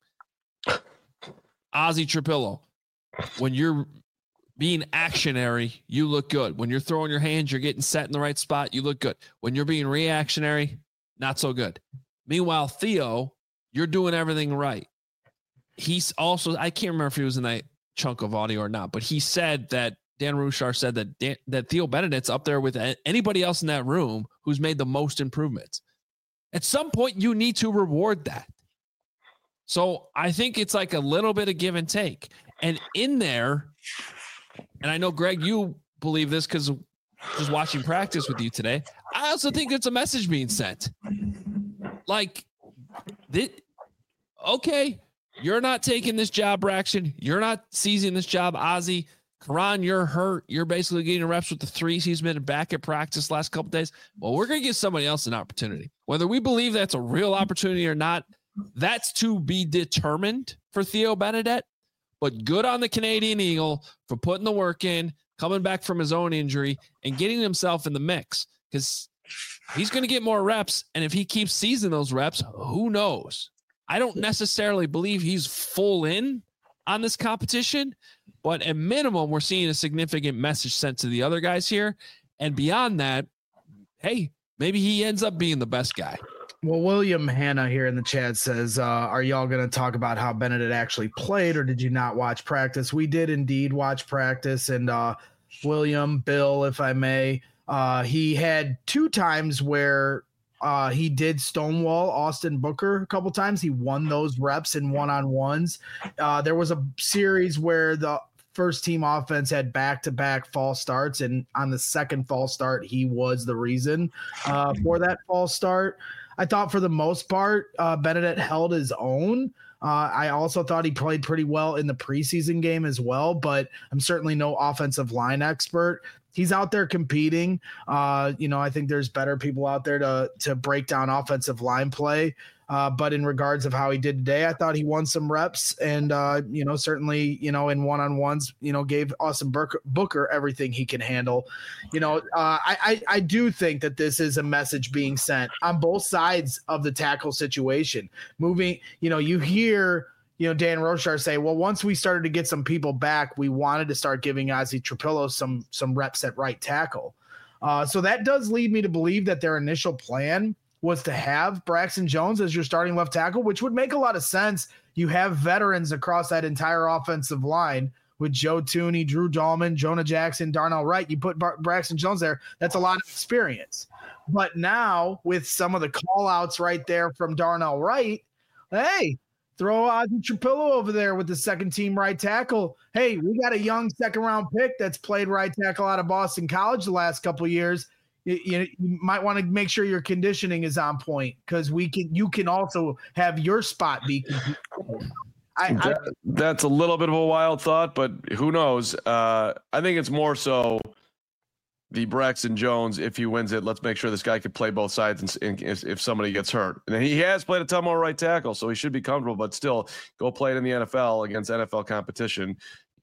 Ozzy Trapillo, when you're being actionary, you look good. When you're throwing your hands, you're getting set in the right spot, you look good. When you're being reactionary, not so good. Meanwhile, Theo, you're doing everything right. He's also, I can't remember if he was in that chunk of audio or not, but he said that Dan Rushar said that Theo Benedette's up there with anybody else in that room who's made the most improvements. At some point, you need to reward that. So I think it's like a little bit of give and take. And in there, and I know, Greg, you believe this because just watching practice with you today, I also think it's a message being sent. Like, okay, you're not taking this job, Braxton. You're not seizing this job, Ozzy. Karan, you're hurt. You're basically getting reps with the 3s. He's been back at practice last couple of days. Well, we're going to give somebody else an opportunity. Whether we believe that's a real opportunity or not, that's to be determined for Theo Benedette. But good on the Canadian Eagle for putting the work in, coming back from his own injury, and getting himself in the mix. Because he's going to get more reps. And if he keeps seizing those reps, who knows? I don't necessarily believe he's full in on this competition, but at minimum, we're seeing a significant message sent to the other guys here. And beyond that, hey, maybe he ends up being the best guy. Well, William Hanna here in the chat says, are y'all going to talk about how Benedict actually played, or did you not watch practice? We did indeed watch practice. And William, Bill, if I may, he had 2 times where he did stonewall Austin Booker a couple times. He won those reps in one-on-ones. There was a series where the first team offense had back-to-back false starts, and on the second false start, he was the reason for that false start. I thought for the most part, Benedict held his own. I also thought he played pretty well in the preseason game as well, but I'm certainly no offensive line expert. He's out there competing. I think there's better people out there to break down offensive line play. But in regards of how he did today, I thought he won some reps and, certainly, in one-on-ones, gave Austin Booker everything he can handle. I do think that this is a message being sent on both sides of the tackle situation. Moving, you hear, Dan Rochar say, well, once we started to get some people back, we wanted to start giving Ozzie Trapillo some reps at right tackle. So that does lead me to believe that their initial plan was to have Braxton Jones as your starting left tackle, which would make a lot of sense. You have veterans across that entire offensive line with Joe Thuney, Drew Dahlman, Jonah Jackson, Darnell Wright. You put Braxton Jones there, that's a lot of experience. But now with some of the call-outs right there from Darnell Wright, hey, throw Ozzie Trapillo over there with the second-team right tackle. Hey, we got a young second-round pick that's played right tackle out of Boston College the last couple of years. You might want to make sure your conditioning is on point, because you can also have your spot be. That's a little bit of a wild thought, but who knows? I think it's more so the Braxton Jones. If he wins it, let's make sure this guy can play both sides. And if somebody gets hurt, and he has played a ton more right tackle, so he should be comfortable. But still, go play it in the NFL against NFL competition.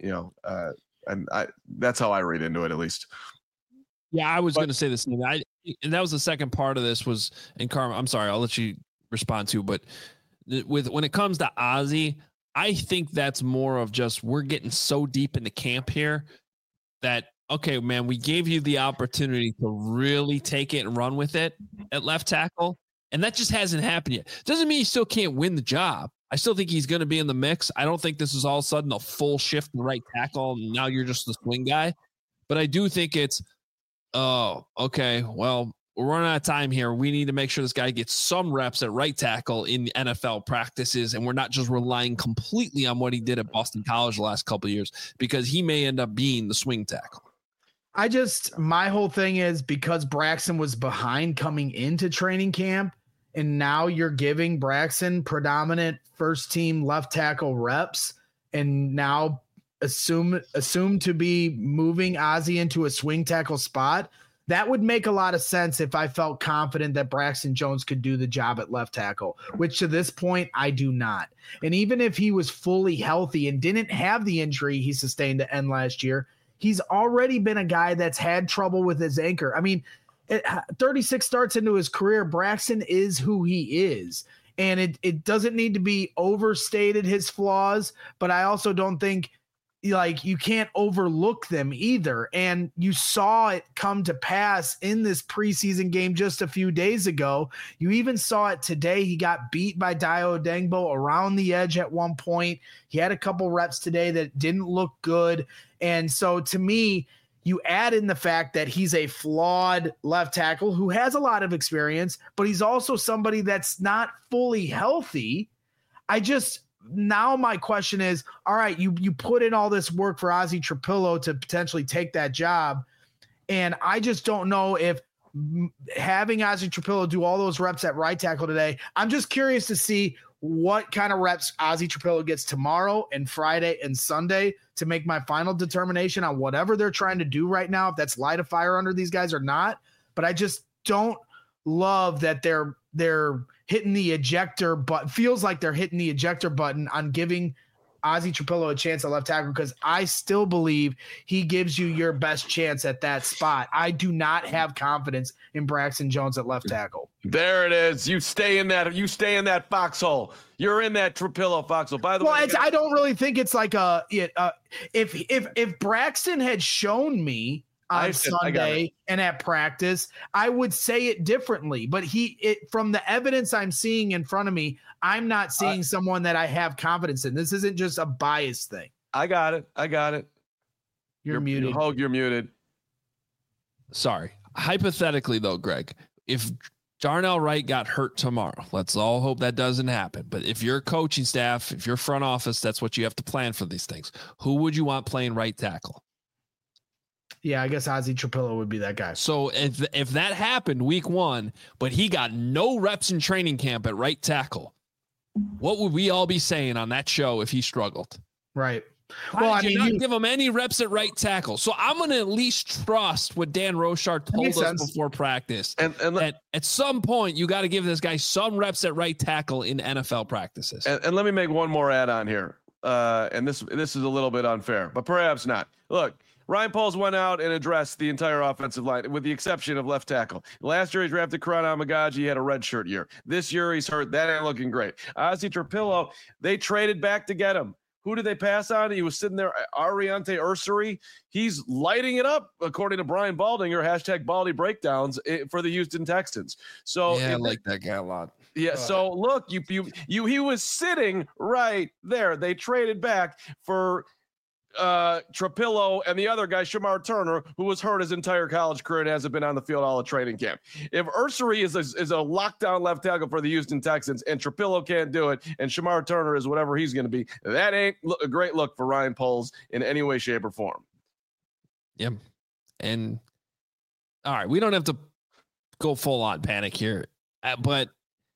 That's how I read into it, at least. Yeah, I was going to say the same. And that was the second part of this was, and Carmen, I'm sorry, I'll let you respond to, but when it comes to Ozzie, I think that's more of just, we're getting so deep into camp here that, okay, man, we gave you the opportunity to really take it and run with it at left tackle. And that just hasn't happened yet. Doesn't mean he still can't win the job. I still think he's going to be in the mix. I don't think this is all of a sudden a full shift in right tackle, and now you're just the swing guy. But I do think it's, oh, okay, well, we're running out of time here. We need to make sure this guy gets some reps at right tackle in NFL practices, and we're not just relying completely on what he did at Boston College the last couple of years, because he may end up being the swing tackle. My whole thing is, because Braxton was behind coming into training camp, and now you're giving Braxton predominant first team left tackle reps, and now assume to be moving Ozzie into a swing tackle spot. That would make a lot of sense if I felt confident that Braxton Jones could do the job at left tackle, which to this point I do not. And even if he was fully healthy and didn't have the injury he sustained to end last year, he's already been a guy that's had trouble with his anchor. I mean, 36 starts into his career, Braxton is who he is. And it doesn't need to be overstated, his flaws, but I also don't think you can't overlook them either. And you saw it come to pass in this preseason game just a few days ago. You even saw it today. He got beat by Dayo Odeyingbo around the edge at one point. He had a couple reps today that didn't look good. And so to me, you add in the fact that he's a flawed left tackle who has a lot of experience, but he's also somebody that's not fully healthy. Now my question is, all right, you put in all this work for Ozzie Trapillo to potentially take that job, and I just don't know if having Ozzie Trapillo do all those reps at right tackle today, I'm just curious to see what kind of reps Ozzie Trapillo gets tomorrow and Friday and Sunday to make my final determination on whatever they're trying to do right now, if that's light a fire under these guys or not. But I just don't love that they're hitting the ejector button. Feels like they're hitting the ejector button on giving Ozzy Trapillo a chance at left tackle because I still believe he gives you your best chance at that spot. I do not have confidence in Braxton Jones at left tackle. There it is. You stay in that foxhole. You're in that Trapillo foxhole. By the way, I don't really think it's like if Braxton had shown me on Sunday and at practice, I would say it differently. But from the evidence I'm seeing in front of me, I'm not seeing someone that I have confidence in. This isn't just a bias thing. I got it. You're muted. Hogue, you're muted. Sorry. Hypothetically, though, Greg, if Darnell Wright got hurt tomorrow, let's all hope that doesn't happen. But if you're coaching staff, if you're front office, that's what you have to plan for these things. Who would you want playing right tackle? Yeah, I guess Ozzy Trapillo would be that guy. So if that happened week 1, but he got no reps in training camp at right tackle, what would we all be saying on that show if he struggled? Right. Why did you not give him any reps at right tackle? So I'm going to at least trust what Dan Rochard told us before practice. And at some point, you got to give this guy some reps at right tackle in NFL practices. And let me make one more add-on here. And this is a little bit unfair, but perhaps not. Look, Ryan Poles went out and addressed the entire offensive line, with the exception of left tackle. Last year, he drafted Karan Amagaji. He had a redshirt year. This year, he's hurt. That ain't looking great. Ozzy Trapillo, they traded back to get him. Who did they pass on? He was sitting there, Ariante Ursary. He's lighting it up, according to Brian Baldinger, hashtag Baldy Breakdowns for the Houston Texans. So yeah, I like that guy a lot. Yeah. So look, he was sitting right there. They traded back for Trapillo and the other guy, Shamar Turner, who was hurt his entire college career and hasn't been on the field all of training camp. If Ursary is a lockdown left tackle for the Houston Texans and Trapillo can't do it and Shamar Turner is whatever he's going to be, that ain't a great look for Ryan Poles in any way, shape, or form. Yep. And all right, we don't have to go full on panic here, but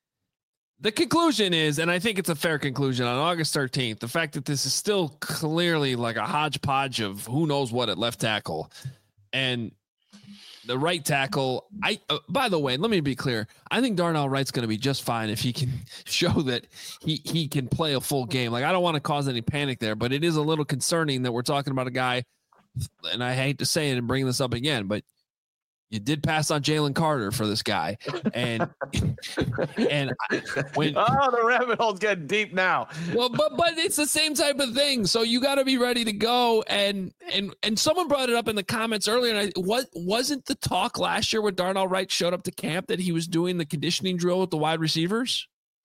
the conclusion is, and I think it's a fair conclusion, on August 13th, the fact that this is still clearly like a hodgepodge of who knows what at left tackle and the right tackle. By the way, let me be clear. I think Darnell Wright's going to be just fine if he can show that he can play a full game. Like, I don't want to cause any panic there, but it is a little concerning that we're talking about a guy, and I hate to say it and bring this up again, but you did pass on Jalen Carter for this guy. And when the rabbit hole's getting deep now. Well, but it's the same type of thing. So you got to be ready to go. And someone brought it up in the comments earlier. And wasn't the talk last year when Darnell Wright showed up to camp that he was doing the conditioning drill with the wide receivers?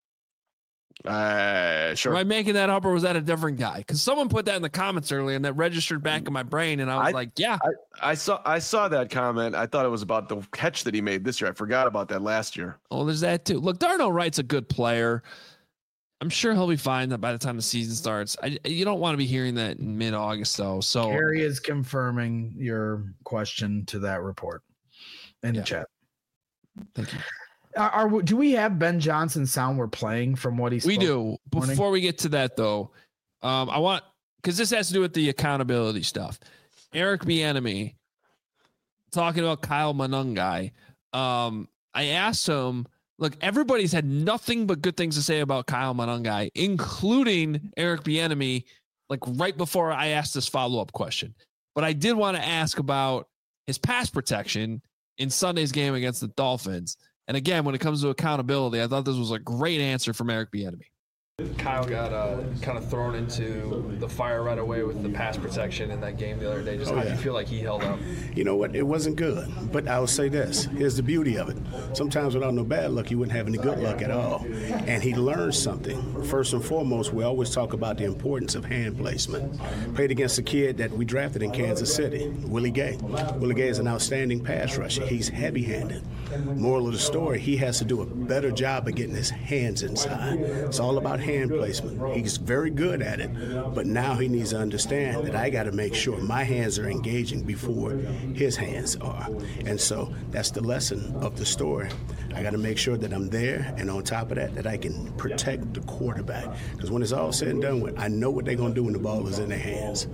Sure. Am I making that up, or was that a different guy? Because someone put that in the comments earlier, and that registered back in my brain, and I was like, "Yeah." I saw that comment. I thought it was about the catch that he made this year. I forgot about that last year. Oh, there's that too. Look, Darnell Wright's a good player. I'm sure he'll be fine by the time the season starts. You don't want to be hearing that in mid-August, though. So Harry is confirming your question to that report in the chat. Thank you. Do we have Ben Johnson sound we're playing from what he's? We do. Before we get to that, though, I want, because this has to do with the accountability stuff. Eric Bieniemy talking about Kyle Monangai. I asked him, look, everybody's had nothing but good things to say about Kyle Monangai, including Eric Bieniemy, like right before I asked this follow-up question. But I did want to ask about his pass protection in Sunday's game against the Dolphins. And again, when it comes to accountability, I thought this was a great answer from Eric Bieniemy. Kyle got kind of thrown into the fire right away with the pass protection in that game the other day. How do you feel like he held up? You know what? It wasn't good. But I will say this. Here's the beauty of it. Sometimes without no bad luck, you wouldn't have any good luck at all. And he learned something. First and foremost, we always talk about the importance of hand placement. Played against a kid that we drafted in Kansas City, Willie Gay. Willie Gay is an outstanding pass rusher. He's heavy-handed. Moral of the story, he has to do a better job of getting his hands inside. It's all about hand placement. He's very good at it, but now he needs to understand that I got to make sure my hands are engaging before his hands are. And so that's the lesson of the story. I got to make sure that I'm there, and on top of that, that I can protect the quarterback. Because when it's all said and done with, I know what they're going to do when the ball is in their hands.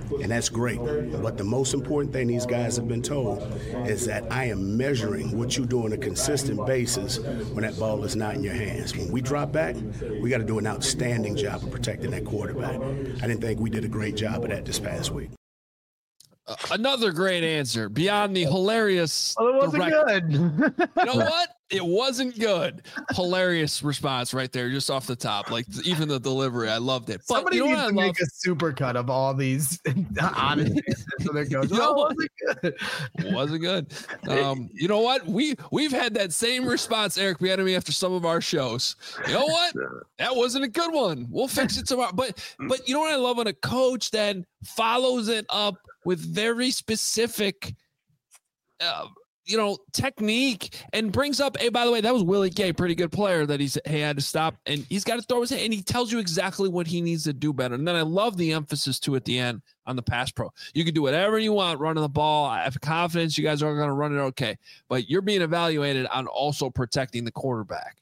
and that's great. But the most important thing these guys have been told is that I am measuring what you do on a consistent basis when that ball is not in your hands. When we drop back, we got to do an outstanding job of protecting that quarterback. I didn't think we did a great job of that this past week. Another great answer beyond the hilarious. Well, it wasn't good. You know what? It wasn't good. Hilarious response right there, just off the top. Like even the delivery, I loved it. But Somebody you know needs what to I make a super cut of all these honest answers. So there goes. You know Oh, what? Wasn't good. You know what? We've had that same response, Eric Bieniemy, after some of our shows. You know what? That wasn't a good one. We'll fix it tomorrow. But you know what I love when a coach then follows it up with very specific technique and brings up, hey, by the way, that was Willie Gay, pretty good player that he had to stop, and he's got to throw his hand, and he tells you exactly what he needs to do better. And then I love the emphasis too at the end on the pass pro. You can do whatever you want running the ball. I have confidence you guys are going to run it okay, but you're being evaluated on also protecting the quarterback.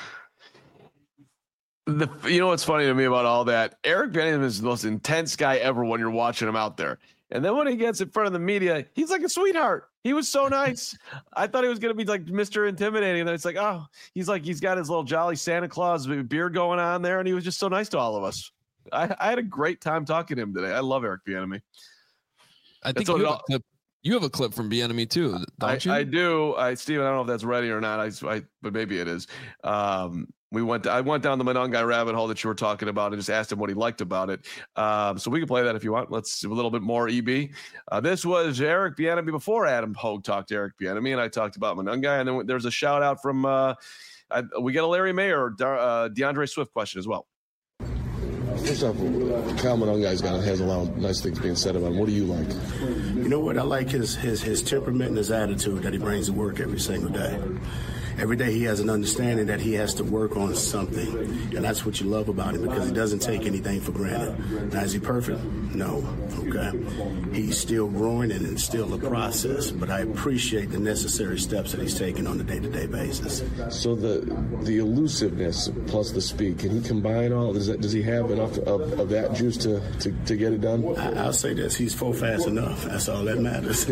You know what's funny to me about all that? Eric Bieniemy is the most intense guy ever when you're watching him out there. And then when he gets in front of the media, he's like a sweetheart. He was so nice. I thought he was going to be like Mr. Intimidating. And then it's like, oh, he's got his little jolly Santa Claus beard going on there. And he was just so nice to all of us. I had a great time talking to him today. I love Eric Bieniemy. I think you have a clip from Bieniemy too, don't you? I do. Steven, I don't know if that's ready or not. But maybe it is. I went down the Monangai rabbit hole that you were talking about and just asked him what he liked about it. So we can play that if you want. Let's do a little bit more EB. This was Eric Bieniemy before Adam Hogue talked to Eric Bieniemy, and I talked about Monangai. And then there's a shout out from we get a Larry Mayer, DeAndre Swift question as well. First off, Kyle Monangai has a lot of nice things being said about him. What do you like? You know what? I like his temperament and his attitude that he brings to work every single day. Every day he has an understanding that he has to work on something, and that's what you love about him because he doesn't take anything for granted. Now, is he perfect? No. Okay. He's still growing and it's still a process, but I appreciate the necessary steps that he's taking on a day-to-day basis. So the elusiveness plus the speed, can he combine all? Does he have enough of that juice to get it done? I'll say this: he's fast enough. That's all that matters.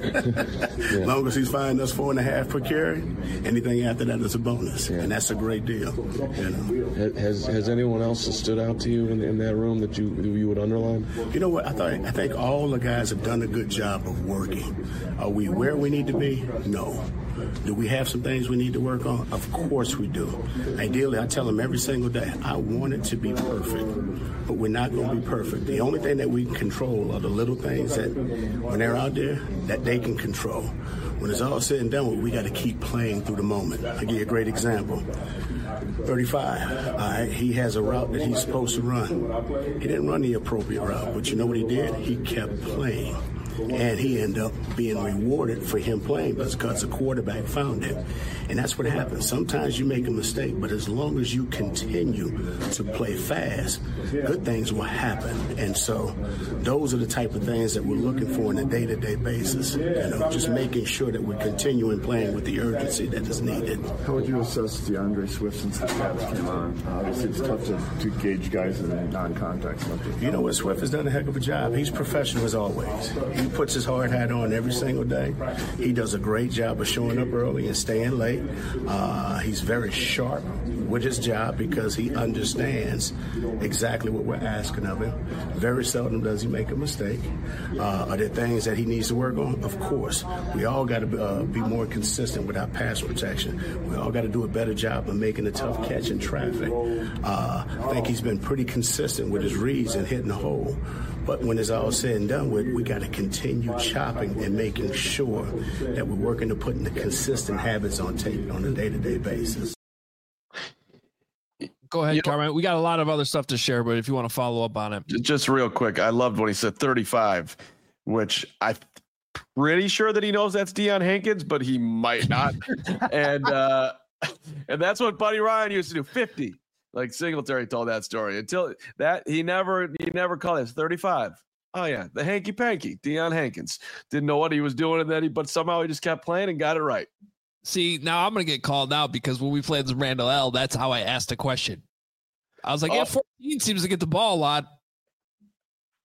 As long as he's finding us 4.5 per carry, anything after that is a bonus, and that's a great deal. You know? Has anyone else stood out to you in that room that you would underline? You know what? I think all the guys have done a good job of working. Are we where we need to be? No. Do we have some things we need to work on? Of course we do. Ideally, I tell them every single day, I want it to be perfect, but we're not going to be perfect. The only thing that we can control are the little things that, when they're out there, that they can control. When it's all said and done, we got to keep playing through the moment. I'll give you a great example. 35, all right, he has a route that he's supposed to run. He didn't run the appropriate route, but you know what he did? He kept playing. And he ended up being rewarded for him playing because the quarterback found him. And that's what happens. Sometimes you make a mistake, but as long as you continue to play fast, good things will happen. And so those are the type of things that we're looking for on a day-to-day basis. You know, just making sure that we're continuing playing with the urgency that is needed. How would you assess DeAndre Swift since the Cavs came on? Obviously, it's tough to gauge guys in non-contact stuff. You know what? Swift has done a heck of a job. He's professional as always. He puts his hard hat on every single day. He does a great job of showing up early and staying late. He's very sharp with his job because he understands exactly what we're asking of him. Very seldom does he make a mistake. Are there things that he needs to work on? Of course. We all got to be more consistent with our pass protection. We all got to do a better job of making a tough catch in traffic. I think he's been pretty consistent with his reads and hitting the hole. But when it's all said and done with, we got to continue chopping and making sure that we're working to putting the consistent habits on tape on a day-to-day basis. Go ahead, Carmine. We got a lot of other stuff to share, but if you want to follow up on it. Just real quick, I loved when he said 35, which I'm pretty sure that he knows that's Deion Hankins, but he might not. and that's what Buddy Ryan used to do, 50. Like Singletary told that story. Until that, he never called it 35. Oh yeah, the hanky panky, Deion Hankins didn't know what he was doing, and then but somehow he just kept playing and got it right. See, now I'm gonna get called out because when we played with Randall L, that's how I asked the question. I was like, 14 seems to get the ball a lot.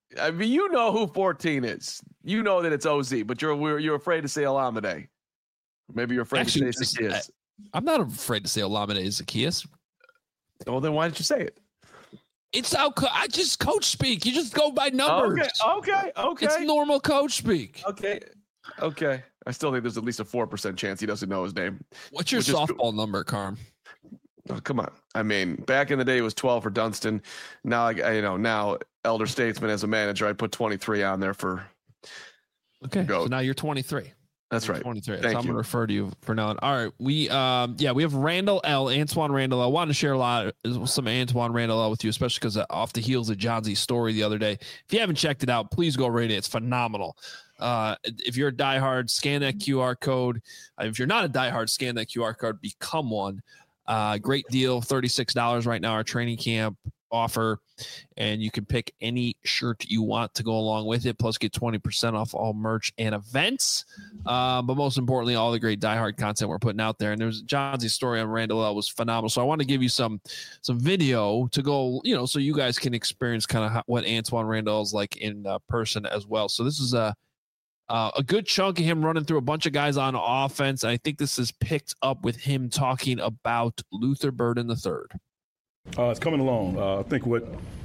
I mean, you know who 14 is. You know that it's OZ, but you're afraid to say Olamide. Maybe you're afraid to say Zaccheaus. I'm not afraid to say Olamide Zaccheaus. Well, then why didn't you say it? It's I just coach speak. You just go by numbers. Okay. It's normal coach speak. Okay. I still think there's at least a 4% chance he doesn't know his name. What's your softball number, Carm? Oh, come on. I mean, back in the day, it was 12 for Dunston. Now, now Elder Statesman as a manager, I put 23 on there for. Okay, so now you're 23. That's right. 23. Thank so I'm you. going to refer to you for now. All right, we have Randall L. Antoine Randall L. I wanted to share some Antoine Randall L. with you, especially because off the heels of John Z's story the other day. If you haven't checked it out, please go rate it. It's phenomenal. If you're a diehard, scan that QR code. If you're not a diehard, scan that QR code. Become one. Great deal, $36 right now, our training camp offer, and you can pick any shirt you want to go along with it, plus get 20% off all merch and events. But most importantly, all the great diehard content we're putting out there. And there's John's story on Randall L was phenomenal. So I want to give you some video to go, so you guys can experience kind of what Antoine Randall is like in person as well. So this is a good chunk of him running through a bunch of guys on offense. I think this is picked up with him talking about Luther Burden III. It's coming along. I think what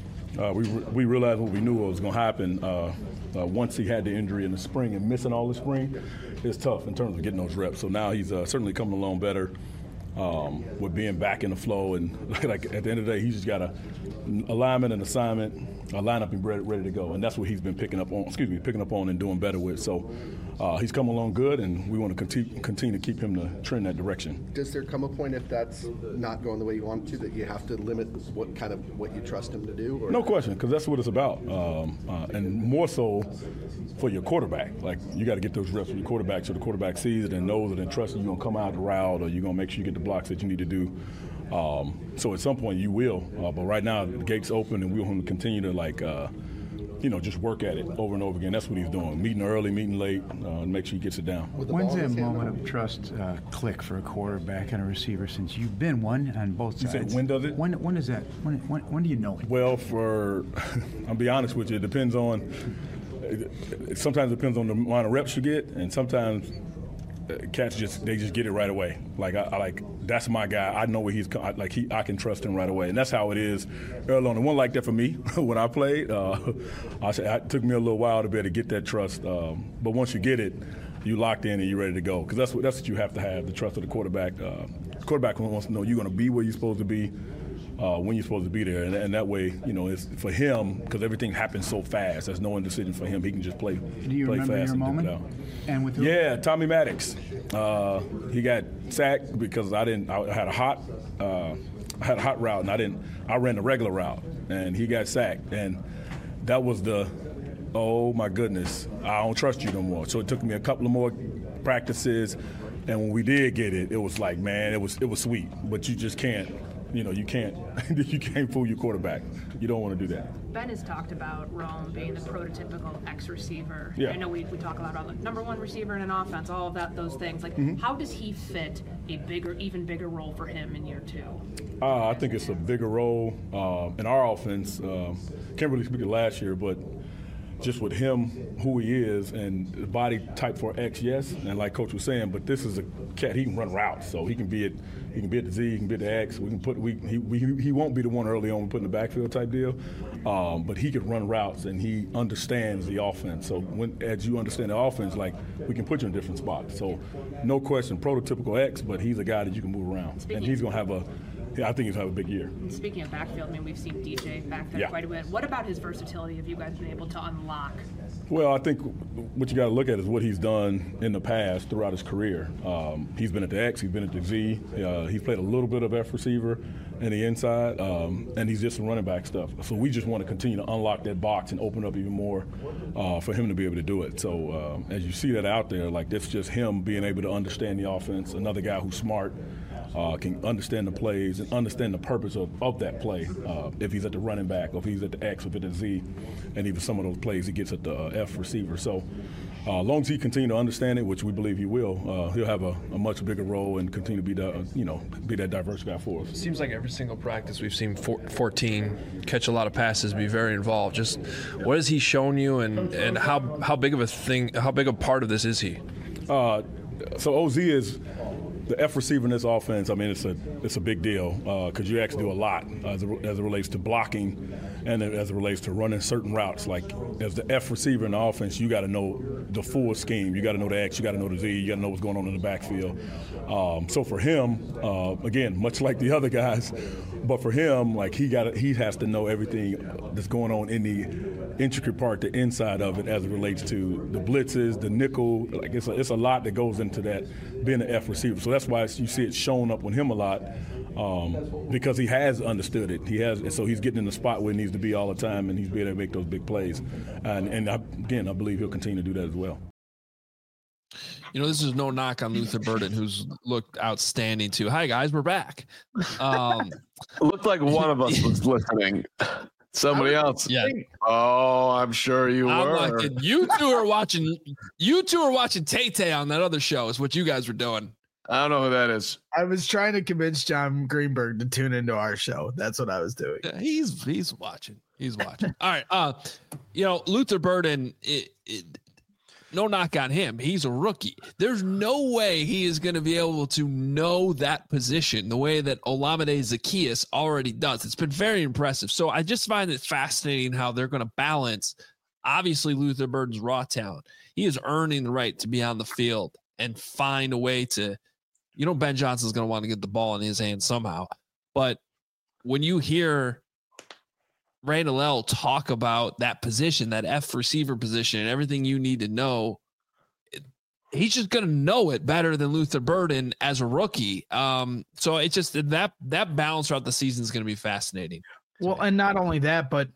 we realized what we knew was going to happen once he had the injury in the spring and missing all the spring is tough in terms of getting those reps. So now he's certainly coming along better with being back in the flow. And like at the end of the day, he's just got an alignment and assignment, a lineup and ready to go. And that's what he's been picking up on and doing better with. So he's come along good, and we want to continue to keep him to trend that direction. Does there come a point, if that's not going the way you want it to, that you have to limit what you trust him to do? Or? No question, because that's what it's about. And more so for your quarterback. Like, you got to get those reps with your quarterback so the quarterback sees it and knows it and trusts you're going to come out the route, or you're going to make sure you get the blocks that you need to do. So at some point you will. But right now the gate's open, and we want him to continue to just work at it over and over again. That's what he's doing. Meeting early, meeting late, make sure he gets it down. When's that moment of trust click for a quarterback and a receiver, since you've been one on both sides? You said, when does it? When is that? When do you know it? Well, I'll be honest with you, sometimes it depends on the amount of reps you get, and sometimes cats just get it right away. Like I that's my guy. I know where he's I can trust him right away, and that's how it is early on. It wasn't like that for me when I played. It took me a little while to be able to get that trust, but once you get it, you locked in and you're ready to go. Because that's what you have to have, the trust of the quarterback. The quarterback wants to know you're going to be where you're supposed to be. When you're supposed to be there, and that way, it's for him, because everything happens so fast. There's no indecision for him. He can just play. Do you remember fast your moment? And with who? Yeah, Tommy Maddox. He got sacked because I had a hot route, and I ran the regular route, and he got sacked, and that was oh my goodness, I don't trust you no more. So it took me a couple of more practices, and when we did get it, it was like, man, it was sweet, but you just can't. You can't fool your quarterback. You don't want to do that. Ben has talked about Rome being the prototypical X-receiver. Yeah. I know we talk about all the number one receiver in an offense, all of those things. Like, How does he fit a even bigger role for him in year two? I think it's a bigger role in our offense. Can't really speak of last year, but just with him, who he is, and the body type for X, yes, and like Coach was saying, but this is a cat. He can run routes, so he can be at the Z, he can be at the X. He won't be the one early on we put in the backfield type deal, but he can run routes and he understands the offense. So as you understand the offense, like, we can put you in different spots. So no question, prototypical X, but he's a guy that you can move around, and he's gonna have I think he's going to have a big year. Speaking of backfield, we've seen DJ back there quite a bit. What about his versatility have you guys been able to unlock? Well, I think what you got to look at is what he's done in the past throughout his career. He's been at the X, he's been at the Z, he's played a little bit of F receiver in the inside, and he's just some running back stuff. So we just want to continue to unlock that box and open up even more for him to be able to do it. So as you see that out there, like, that's just him being able to understand the offense, another guy who's smart, can understand the plays and understand the purpose of that play. If he's at the running back, or if he's at the X, or if it's at the Z, and even some of those plays he gets at the F receiver. So As long as he continue to understand it, which we believe he will, he'll have a much bigger role and continue to be be that diverse guy for us. It seems like every single practice we've seen 14 catch a lot of passes, be very involved. Just what has he shown you, and how big of a part of this is he? So OZ is the F receiver in this offense. I mean, it's a big deal because you actually do a lot as it relates to blocking and as it relates to running certain routes. Like as the F receiver in the offense, you got to know the full scheme. You got to know the X, you got to know the Z, you got to know what's going on in the backfield. So for him, again, much like the other guys, but for him, like he has to know everything that's going on in the intricate part, the inside of it, as it relates to the blitzes, the nickel. Like it's a lot that goes into that being an F receiver. So that's why you see it showing up on him a lot, because he has understood it. So he's getting in the spot where he needs to be all the time, and he's being able to make those big plays. And I believe he'll continue to do that as well. You know, this is no knock on Luther Burden, who's looked outstanding too. Hi guys, we're back. It looked like one of us was listening. Somebody else. Yeah. Oh, I'm sure you were. Like, you two are watching Tay-Tay on that other show is what you guys were doing. I don't know who that is. I was trying to convince John Greenberg to tune into our show. That's what I was doing. Yeah, he's watching. He's watching. All right. Luther Burden, no knock on him. He's a rookie. There's no way he is going to be able to know that position the way that Olamide Zaccheaus already does. It's been very impressive. So I just find it fascinating how they're going to balance, obviously, Luther Burden's raw talent. He is earning the right to be on the field and find a way to, Ben Johnson's going to want to get the ball in his hands somehow. But when you hear Randall L. talk about that position, that F receiver position, and everything you need to know, he's just going to know it better than Luther Burden as a rookie. So it's just that balance throughout the season is going to be fascinating. Well, and not only that, but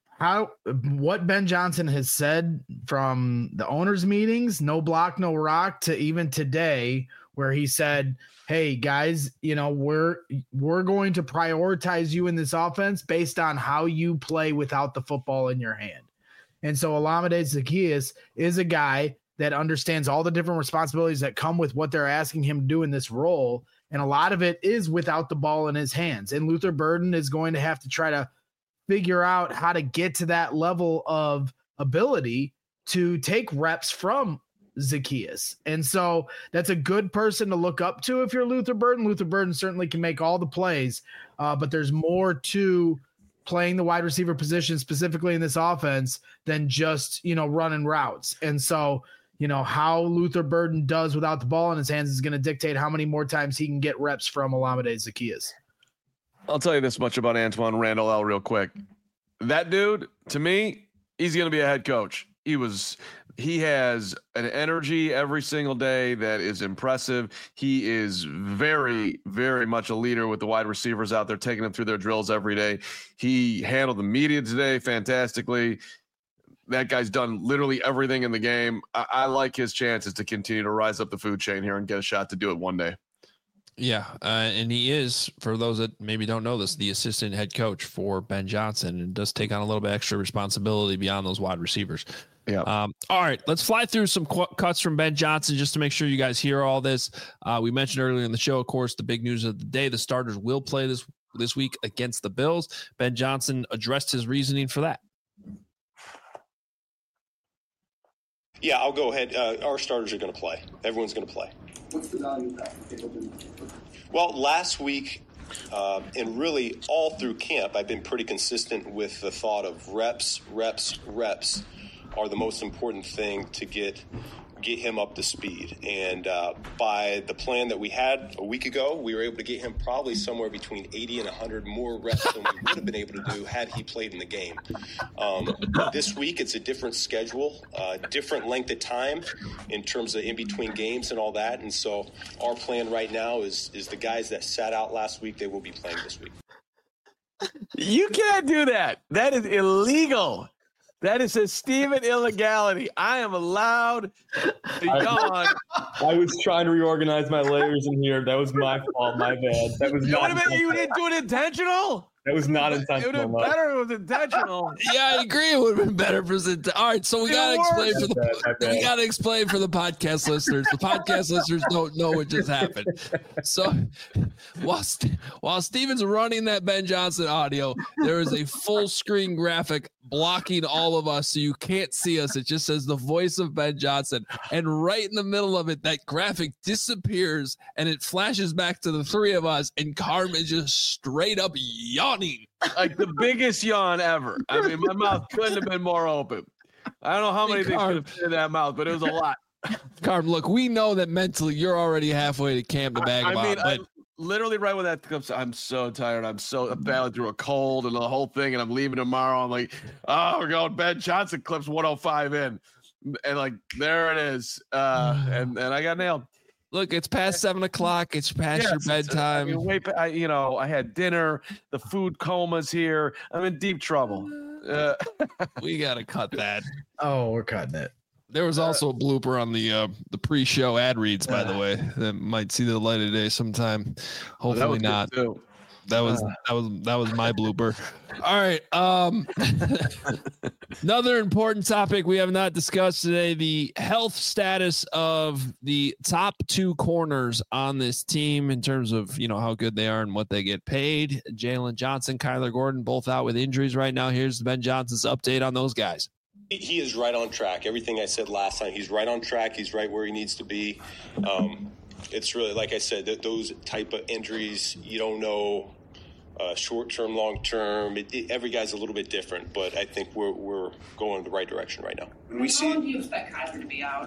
what Ben Johnson has said from the owners' meetings, no block, no rock, to even today, where he said, hey guys, we're going to prioritize you in this offense based on how you play without the football in your hand. And so Olamide Zaccheaus is a guy that understands all the different responsibilities that come with what they're asking him to do in this role. And a lot of it is without the ball in his hands. And Luther Burden is going to have to try to figure out how to get to that level of ability to take reps from Zaccheaus. And so that's a good person to look up to if you're Luther Burden. Luther Burden certainly can make all the plays, but there's more to playing the wide receiver position specifically in this offense than just, running routes. And so, how Luther Burden does without the ball in his hands is going to dictate how many more times he can get reps from Olamide Zaccheaus. I'll tell you this much about Antoine Randall L. real quick. That dude, to me, he's going to be a head coach. He has an energy every single day that is impressive. He is very, very much a leader with the wide receivers out there, taking them through their drills every day. He handled the media today fantastically. That guy's done literally everything in the game. I like his chances to continue to rise up the food chain here and get a shot to do it one day. Yeah, and he is, for those that maybe don't know this, the assistant head coach for Ben Johnson, and does take on a little bit extra responsibility beyond those wide receivers. Yeah. All right, let's fly through some cuts from Ben Johnson just to make sure you guys hear all this. We mentioned earlier in the show, of course, the big news of the day: the starters will play this week against the Bills. Ben Johnson addressed his reasoning for that. Yeah, I'll go ahead. Our starters are going to play. Everyone's going to play. What's the value of that? Well, last week, and really all through camp, I've been pretty consistent with the thought of reps are the most important thing to get him up to speed. And by the plan that we had a week ago, we were able to get him probably somewhere between 80 and 100 more reps than we would have been able to do had he played in the game. This week, it's a different schedule, different length of time in terms of in between games and all that. And so our plan right now is the guys that sat out last week, they will be playing this week. You can't do that. That is illegal. That is a Steven illegality. I am allowed to yawn. I was trying to reorganize my layers in here. That was my fault. My bad. That was You didn't do it intentional? That was not It would have intentional. been better if it was intentional. Yeah, I agree. It would have been better for all right. So we gotta explain for the podcast listeners. The podcast listeners don't know what just happened. So while Steven's running that Ben Johnson audio, there is a full screen graphic blocking all of us, so you can't see us. It just says the voice of Ben Johnson, and right in the middle of it, that graphic disappears, and it flashes back to the three of us, and Carm is just straight up yawning. Like the biggest yawn ever. I mean, my mouth couldn't have been more open. I don't know how many things could have fit in that mouth, but it was a lot. Carm, look, we know that mentally you're already halfway to camp to bag I literally right when that comes, I'm so tired. I'm battling through a cold and the whole thing, and I'm leaving tomorrow. I'm like, oh, we're going Ben Johnson clips 105 in. And like, there it is. And I got nailed. Look, it's past 7 o'clock. It's past your bedtime. I had dinner. The food coma's here. I'm in deep trouble. We got to cut that. Oh, we're cutting it. There was also a blooper on the pre-show ad reads, by the way, that might see the light of day sometime. Hopefully not. That was my blooper. All right. Another important topic we have not discussed today: the health status of the top two corners on this team in terms of how good they are and what they get paid. Jalen Johnson, Kyler Gordon, both out with injuries right now. Here's Ben Johnson's update on those guys. He is right on track. Everything I said last time, he's right on track. He's right where he needs to be. It's really, like I said, those type of injuries, you don't know short-term, long-term. Every guy's a little bit different, but I think we're going in the right direction right now. How long do you expect Kyler to be out?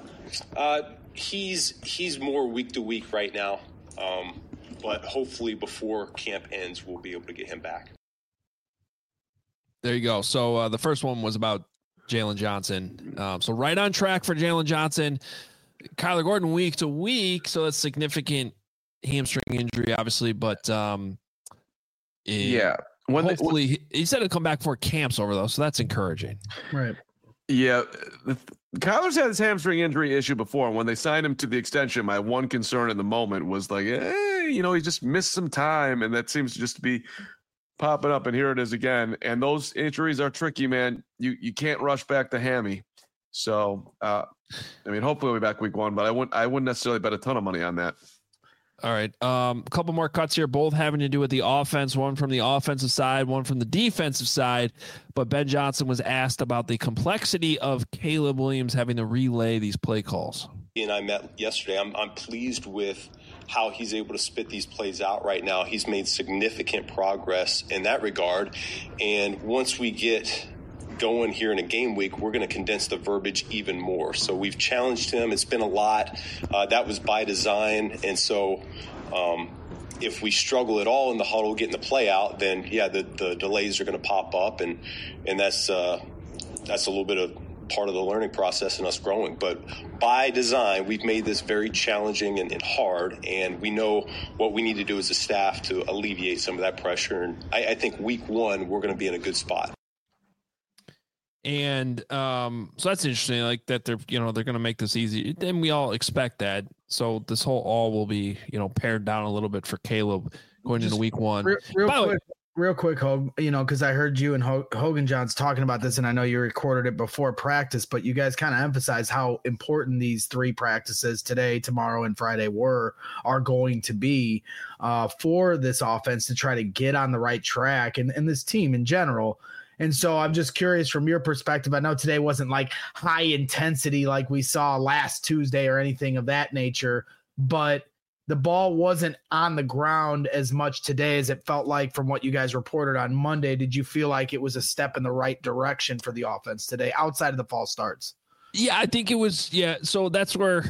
He's more week to week right now, but hopefully before camp ends, we'll be able to get him back. There you go. So the first one was about Jalen Johnson. So right on track for Jalen Johnson. Kyler Gordon week to week, so that's significant hamstring injury, obviously, but hopefully he said he'll come back for camps over though, so that's encouraging. Right. Yeah. Kyler's had his hamstring injury issue before. When they signed him to the extension, my one concern in the moment was like, he just missed some time, and that seems just to be popping up, and here it is again. And those injuries are tricky, man. You can't rush back the hammy. So, hopefully we'll be back week one, but I wouldn't necessarily bet a ton of money on that. All right. A couple more cuts here, both having to do with the offense, one from the offensive side, one from the defensive side. But Ben Johnson was asked about the complexity of Caleb Williams having to relay these play calls. He and I met yesterday. I'm pleased with how he's able to spit these plays out right now. He's made significant progress in that regard. And once we get going here in a game week, we're going to condense the verbiage even more. So we've challenged him. It's been a lot. That was by design. And so if we struggle at all in the huddle getting the play out, then the delays are going to pop up, and that's a little bit of part of the learning process and us growing. But by design, we've made this very challenging and hard, and we know what we need to do as a staff to alleviate some of that pressure. And I think week one, we're going to be in a good spot. And so that's interesting, like that they're going to make this easy. And we all expect that. So this whole all will be, pared down a little bit for Caleb going into week one. Real quick, Hogue, because I heard you and Hogan Johns talking about this, and I know you recorded it before practice, but you guys kind of emphasized how important these three practices today, tomorrow, and Friday are going to be for this offense to try to get on the right track and this team in general. And so I'm just curious from your perspective. I know today wasn't like high intensity like we saw last Tuesday or anything of that nature, but the ball wasn't on the ground as much today as it felt like from what you guys reported on Monday. Did you feel like it was a step in the right direction for the offense today outside of the false starts? Yeah, I think it was. Yeah. So that's where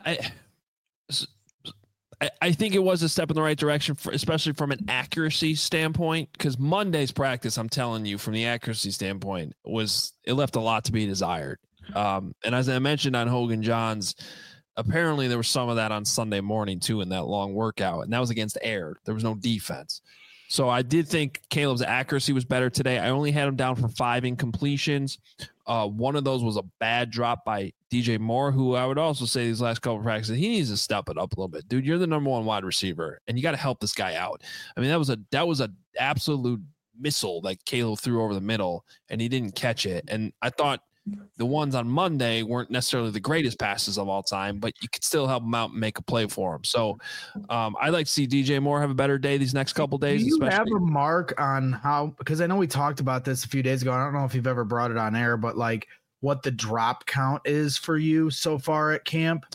I think it was a step in the right direction, especially from an accuracy standpoint, because Monday's practice, I'm telling you, from the accuracy standpoint, it left a lot to be desired. And as I mentioned on Hogan Johns, apparently there was some of that on Sunday morning too in that long workout, and that was against air. There was no defense. So I did think Caleb's accuracy was better today. I only had him down for 5 incompletions. One of those was a bad drop by DJ Moore, who I would also say these last couple of practices, he needs to step it up a little bit. Dude, you're the number one wide receiver, and you got to help this guy out. I mean, that was a absolute missile that Caleb threw over the middle, and he didn't catch it. And I thought the ones on Monday weren't necessarily the greatest passes of all time, but you could still help him out and make a play for him. So I'd like to see DJ Moore have a better day these next couple days. Do you have a mark on how, because I know we talked about this a few days ago. I don't know if you've ever brought it on air, but like what the drop count is for you so far at camp?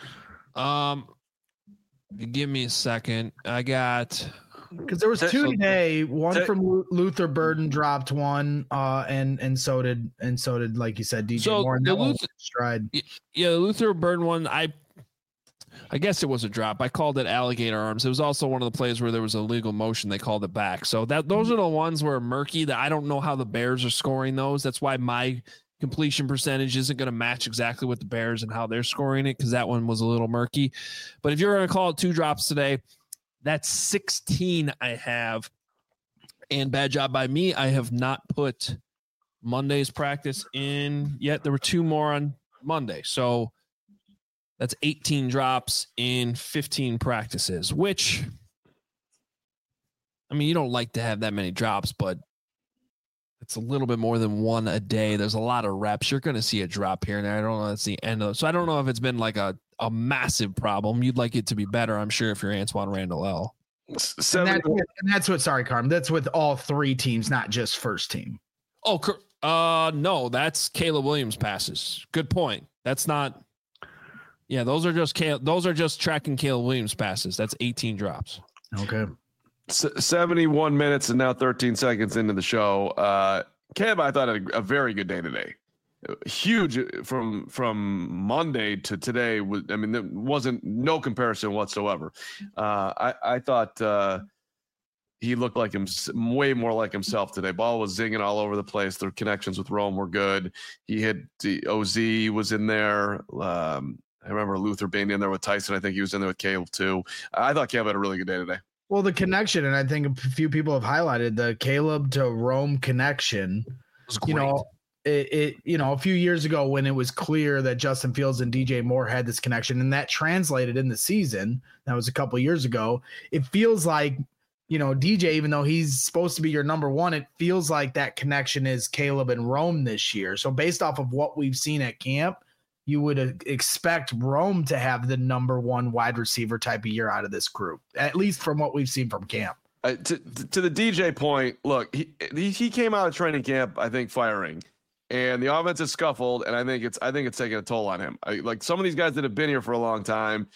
Give me a second. I got... Because there was two today. One from Luther Burden dropped one, and so did like you said, DJ Moore. And the stride. Yeah, the Luther Burden one. I guess it was a drop. I called it alligator arms. It was also one of the plays where there was a legal motion. They called it back. So those are the ones where murky. That I don't know how the Bears are scoring those. That's why my completion percentage isn't going to match exactly with the Bears and how they're scoring it, because that one was a little murky. But if you're going to call it 2 drops today, that's 16 I have. And bad job by me, I have not put Monday's practice in yet. There were 2 more on Monday. So that's 18 drops in 15 practices, which, I mean, you don't like to have that many drops, but it's a little bit more than 1 a day. There's a lot of reps. You're going to see a drop here and there. I don't know. That's the end of it. So I don't know if it's been like a massive problem. You'd like it to be better, I'm sure, if you're Antoine Randall L. And that's what, sorry, Carm, that's with all 3 teams, not just first team. Oh, no, that's Caleb Williams passes. Good point. That's not. Yeah, those are just tracking Caleb Williams passes. That's 18 drops. Okay. 71 minutes and now 13 seconds into the show. Kev, I thought had a very good day today. Huge from Monday to today. There wasn't no comparison whatsoever. I thought he looked like him, way more like himself today. Ball was zinging all over the place. The connections with Rome were good. He had the OZ was in there. I remember Luther being in there with Tyson. I think he was in there with Caleb too. I thought Caleb had a really good day today. Well, the connection, and I think a few people have highlighted the Caleb to Rome connection. A few years ago when it was clear that Justin Fields and DJ Moore had this connection, and that translated in the season, that was a couple years ago. It feels like, DJ, even though he's supposed to be your number 1, it feels like that connection is Caleb and Rome this year. So based off of what we've seen at camp, you would expect Rome to have the number 1 wide receiver type of year out of this group, at least from what we've seen from camp. To the DJ point, look, he came out of training camp, I think, firing. And the offense has scuffled, and I think it's taking a toll on him. Like some of these guys that have been here for a long time,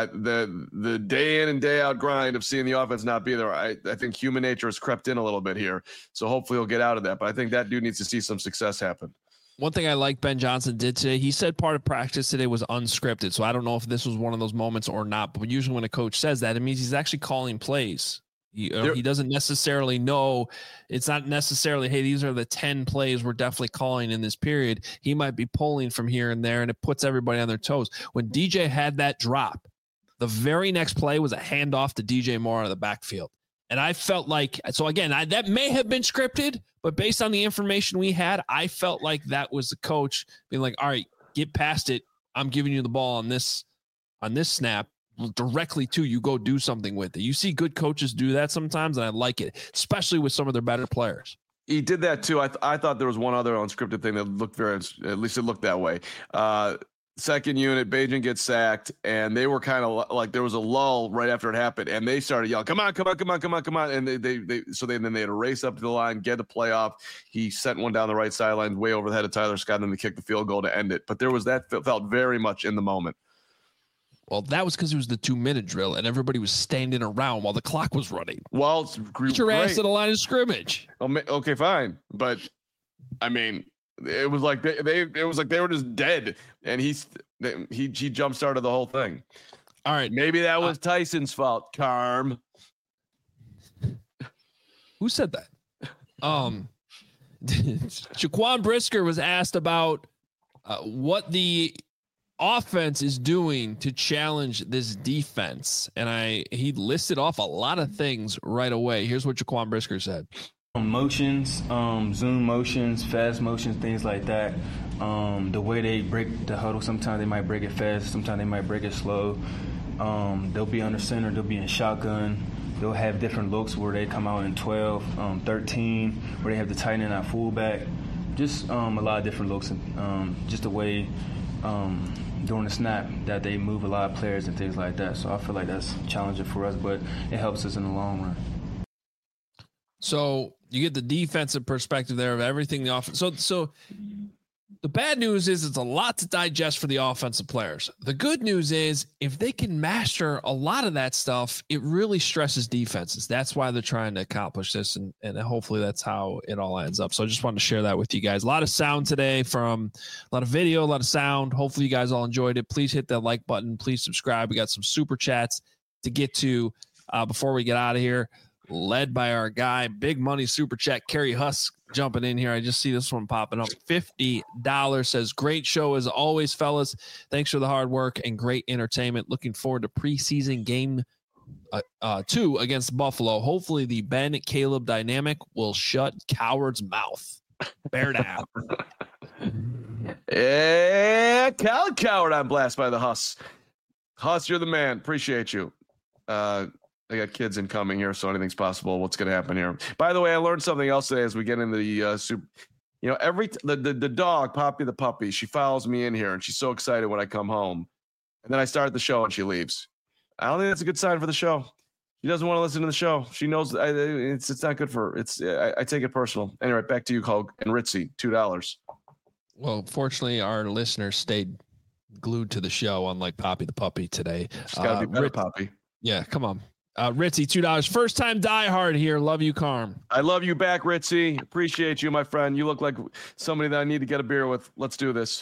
the day in and day out grind of seeing the offense not be there. I think human nature has crept in a little bit here, so hopefully he'll get out of that. But I think that dude needs to see some success happen. One thing I like Ben Johnson did today, he said part of practice today was unscripted. So I don't know if this was one of those moments or not. But usually when a coach says that, it means he's actually calling plays. He doesn't necessarily know. It's not necessarily, hey, these are the 10 plays we're definitely calling in this period. He might be pulling from here and there, and it puts everybody on their toes. When DJ had that drop, the very next play was a handoff to DJ Moore out of the backfield. And I felt like, so again, that may have been scripted, but based on the information we had, I felt like that was the coach being like, all right, get past it. I'm giving you the ball on this snap directly to you. Go do something with it. You see good coaches do that sometimes, and I like it, especially with some of their better players. He did that too. I thought there was one other unscripted thing that looked at least it looked that way. Second unit, Bajan gets sacked, and they were kind of like there was a lull right after it happened, and they started yelling, "Come on, come on, come on, come on, come on!" And then they had to race up to the line, get the play off. He sent one down the right sideline, way over the head of Tyler Scott, and then they kicked the field goal to end it. But there was that felt very much in the moment. Well, that was because it was the 2-minute drill, and everybody was standing around while the clock was running. Well, get your ass to the line of scrimmage. Okay, fine, but I mean. It was like they were just dead, and he jump started the whole thing. All right, maybe that was Tyson's fault. Carm, who said that? Jaquan Brisker was asked about what the offense is doing to challenge this defense, and he listed off a lot of things right away. Here's what Jaquan Brisker said. Motions, zoom motions, fast motions, things like that. The way they break the huddle, sometimes they might break it fast, sometimes they might break it slow. They'll be under center, they'll be in shotgun. they'll have different looks where they come out in 12, 13, where they have the tight end at fullback. Just a lot of different looks, and just the way during the snap that they move a lot of players and things like that. So I feel like that's challenging for us, but it helps us in the long run. So you get the defensive perspective there of everything the offense. So the bad news is it's a lot to digest for the offensive players. The good news is if they can master a lot of that stuff, it really stresses defenses. That's why they're trying to accomplish this, and hopefully that's how it all ends up. So I just wanted to share that with you guys. A lot of sound today, from a lot of video, a lot of sound. Hopefully you guys all enjoyed it. Please hit that like button. Please subscribe. We got some super chats to get to before we get out of here, led by our guy, big money super chat, Kerry Husk, jumping in here. I just see this one popping up. $50 says, great show as always, fellas. Thanks for the hard work and great entertainment. Looking forward to preseason game 2 against Buffalo. Hopefully the Ben Caleb dynamic will shut Coward's mouth. Bear down. Yeah, Coward on blast by the Huss. Huss, you're the man. Appreciate you. I got kids incoming here, so anything's possible. What's going to happen here? By the way, I learned something else today as we get into the super. You know, the dog, Poppy the puppy, she follows me in here, and she's so excited when I come home. And then I start the show, and she leaves. I don't think that's a good sign for the show. She doesn't want to listen to the show. She knows it's not good for her. I take it personal. Anyway, back to you, Hulk and Ritzy, $2. Well, fortunately, our listeners stayed glued to the show, unlike Poppy the puppy today. She's got to be better, Poppy. Yeah, come on. Ritzy, $2. First time diehard here. Love you, Carm. I love you back, Ritzy. Appreciate you, my friend. You look like somebody that I need to get a beer with. Let's do this.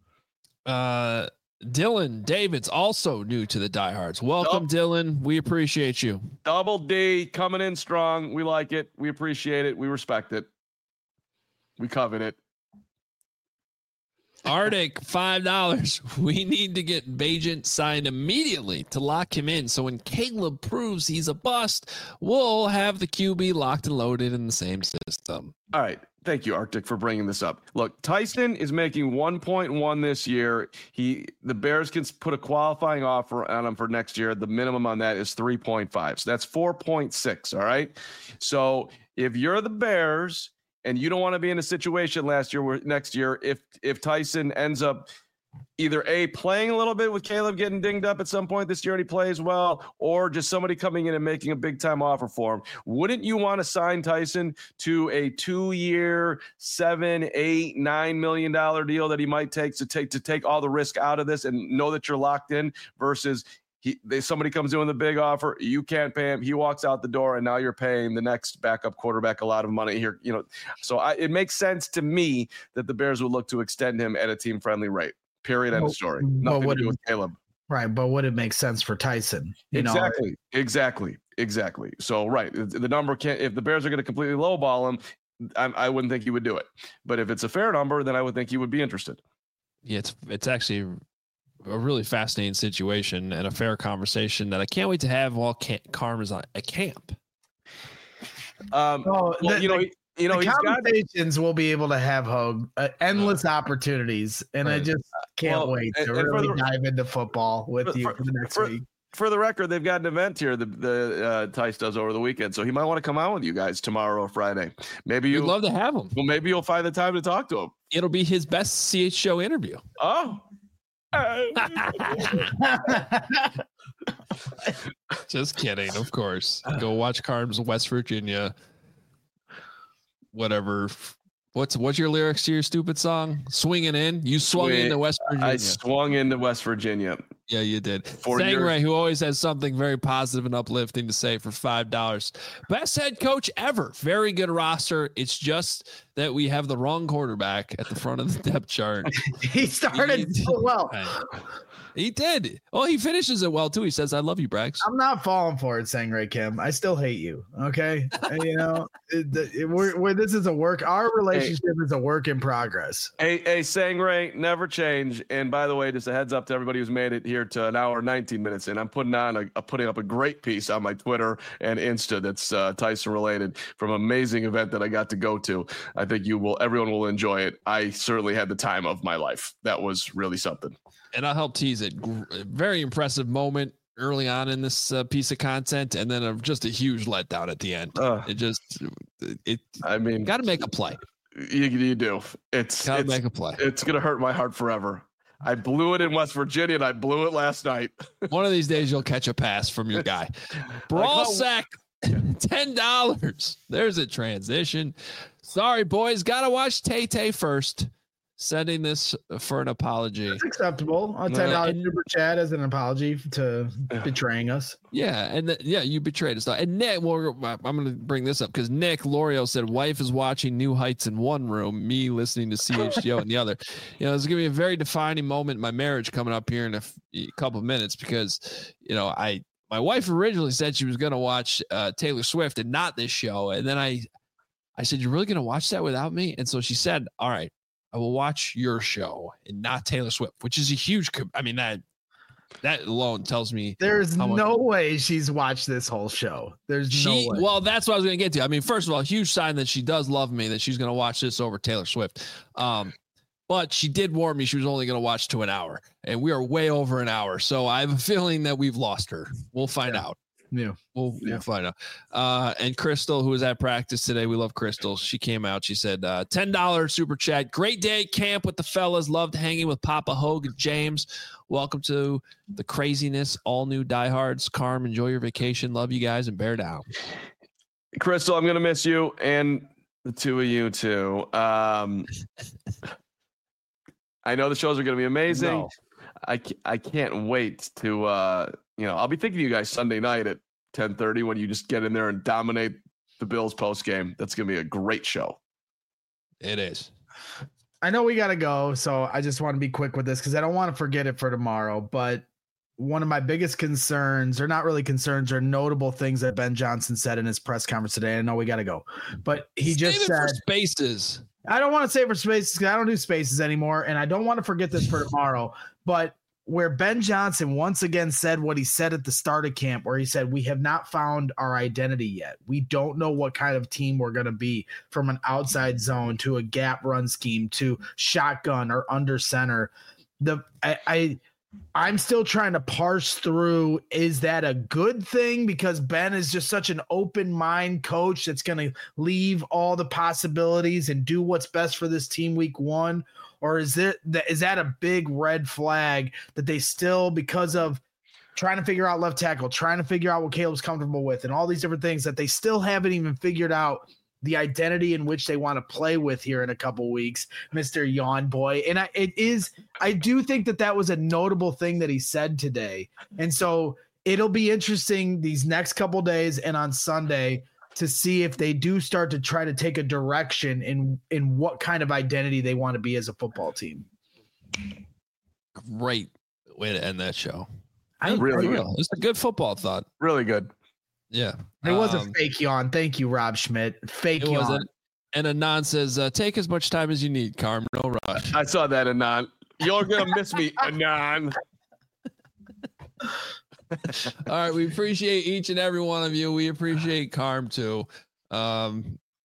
Dylan David's also new to the diehards. Welcome, Dylan. We appreciate you. Double D coming in strong. We like it. We appreciate it. We respect it. We covet it. Arctic, $5. We need to get Bagent signed immediately to lock him in. So when Caleb proves he's a bust, we'll have the QB locked and loaded in the same system. All right. Thank you, Arctic, for bringing this up. Look, Tyson is making 1.1 this year. The Bears can put a qualifying offer on him for next year. The minimum on that is 3.5. So that's 4.6. All right. So if you're the Bears and you don't want to be in a situation next year, if Tyson ends up either playing a little bit with Caleb getting dinged up at some point this year and he plays well, or just somebody coming in and making a big time offer for him, wouldn't you want to sign Tyson to a 2-year, $7, $8, $9 million deal that he might take to take all the risk out of this and know that you're locked in versus somebody comes in with a big offer, you can't pay him, he walks out the door, and now you're paying the next backup quarterback a lot of money here. You know, so it makes sense to me that the Bears would look to extend him at a team friendly rate. Period. End of story. Nothing to do with Caleb. Right, but would it make sense for Tyson? Exactly. So right, the number can't. If the Bears are going to completely lowball him, I wouldn't think he would do it. But if it's a fair number, then I would think he would be interested. Yeah, it's actually a really fascinating situation and a fair conversation that I can't wait to have while Carm is at camp. Conversations we'll be able to have, Hogue, endless opportunities, and I just can't wait to really dive into football with you for the next week. For the record, they've got an event here the Tice does over the weekend, so he might want to come out with you guys tomorrow or Friday. Maybe you'd love to have him. Well, maybe you'll find the time to talk to him. It'll be his best CH show interview. Oh. Just kidding, of course. Go watch Carm's West Virginia. Whatever. What's your lyrics to your stupid song? Swinging in. You swung into West Virginia. I swung into West Virginia. Yeah, you did. Sangray, who always has something very positive and uplifting to say, for $5. Best head coach ever. Very good roster. It's just that we have the wrong quarterback at the front of the depth chart. He started so well. He did. Oh, he finishes it well too. He says, "I love you, Brax." I'm not falling for it, Sangray Kim. I still hate you. Okay, you know, this is a work. Our relationship is a work in progress. Hey, Sangray, never change. And by the way, just a heads up to everybody who's made it here to an hour 19 minutes in. I'm putting up a great piece on my Twitter and Insta that's Tyson related from an amazing event that I got to go to. I think everyone will enjoy it. I certainly had the time of my life. That was really something. And I'll help tease it. Very impressive moment. early on in this piece of content, and then just a huge letdown at the end. I mean, got to make a play. You do. It's make a play. It's gonna hurt my heart forever. I blew it in West Virginia, and I blew it last night. One of these days, you'll catch a pass from your guy. Brawl sack, $10. There's a transition. Sorry, boys. Gotta watch Tay first. Sending this for an apology. It's acceptable. A $10 super chat as an apology to betraying us. Yeah, and you betrayed us. And Nick, well, I'm going to bring this up because Nick Lorio said, "Wife is watching New Heights in one room, me listening to CHGO in the other." It's going to be a very defining moment in my marriage coming up here in a couple of minutes because, my wife originally said she was going to watch Taylor Swift and not this show, and then I said, "You're really going to watch that without me?" And so she said, "All right, I will watch your show and not Taylor Swift," which is a huge. I mean, that alone tells me there's no way she's watched this whole show. There's no way. Well, that's what I was going to get to. I mean, first of all, huge sign that she does love me, that she's going to watch this over Taylor Swift. But she did warn me she was only going to watch to an hour, and we are way over an hour. So I have a feeling that we've lost her. We'll find out. Yeah. We'll find out. And Crystal, who was at practice today, we love Crystal. She came out. She said, $10 super chat. Great day at camp with the fellas. Loved hanging with Papa Hogue and James. Welcome to the craziness. All new diehards. Carm, enjoy your vacation. Love you guys and bear down. Crystal, I'm going to miss you and the two of you too. I know the shows are going to be amazing. No. I can't wait to, I'll be thinking of you guys Sunday night at 10:30 when you just get in there and dominate the Bills post game. That's going to be a great show. It is. I know we got to go, so I just want to be quick with this because I don't want to forget it for tomorrow. But one of my biggest concerns, or not really concerns, or notable things that Ben Johnson said in his press conference today. I know we got to go, but he just said for Spaces. I don't want to say for Spaces because I don't do Spaces anymore, and I don't want to forget this for tomorrow. But where Ben Johnson once again said what he said at the start of camp, where he said, "We have not found our identity yet. We don't know what kind of team we're going to be, from an outside zone to a gap run scheme to shotgun or under center." I'm still trying to parse through, is that a good thing because Ben is just such an open mind coach that's going to leave all the possibilities and do what's best for this team week one? Or is that a big red flag that they still, because of trying to figure out left tackle, trying to figure out what Caleb's comfortable with and all these different things, that they still haven't even figured out the identity in which they want to play with here in a couple weeks, Mr. Yawn Boy. And I do think that was a notable thing that he said today. And so it'll be interesting these next couple days and on Sunday to see if they do start to try to take a direction in what kind of identity they want to be as a football team. Great way to end that show. Really good. It's a good football thought. Really good. Yeah. It was a fake yawn. Thank you, Rob Schmidt. Fake yawn. Wasn't. And Anon says, take as much time as you need, Carm. No rush. I saw that, Anon. You're going to miss me, Anon. All right. We appreciate each and every one of you. We appreciate Carm too. But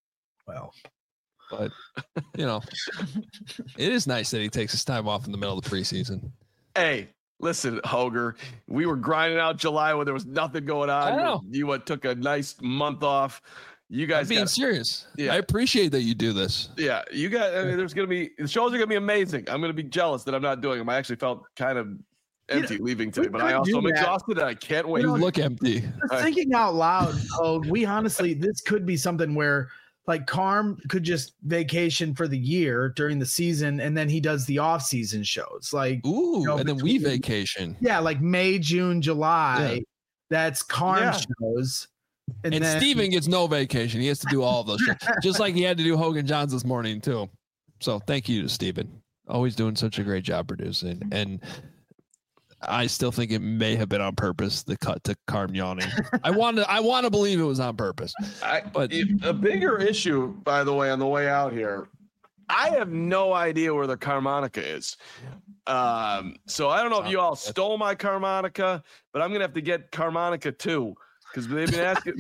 it is nice that he takes his time off in the middle of the preseason. Hey, listen, Hoger, we were grinding out July when there was nothing going on. I know. You took a nice month off. You guys being serious. Yeah. I appreciate that you do this. Yeah, you guys. I mean, the shows are gonna be amazing. I'm gonna be jealous that I'm not doing them. I actually felt kind of empty leaving today, but I also am exhausted and I can't wait. You look empty. Thinking out loud, we honestly, this could be something where like Carm could just vacation for the year during the season, and then he does the off-season shows. Like, and then we vacation. Yeah, like May, June, July. Yeah. That's Carm shows. And then Steven gets no vacation. He has to do all of those shows. Just like he had to do Hogan Johns this morning, too. So thank you to Steven. Always doing such a great job producing. And I still think it may have been on purpose, the cut to Carm yawning. I want to believe it was on purpose. But a bigger issue, by the way, on the way out here, I have no idea where the Carmonica is. So I don't know if you all stole my Carmonica, but I'm going to have to get Carmonica too, because they've been asking.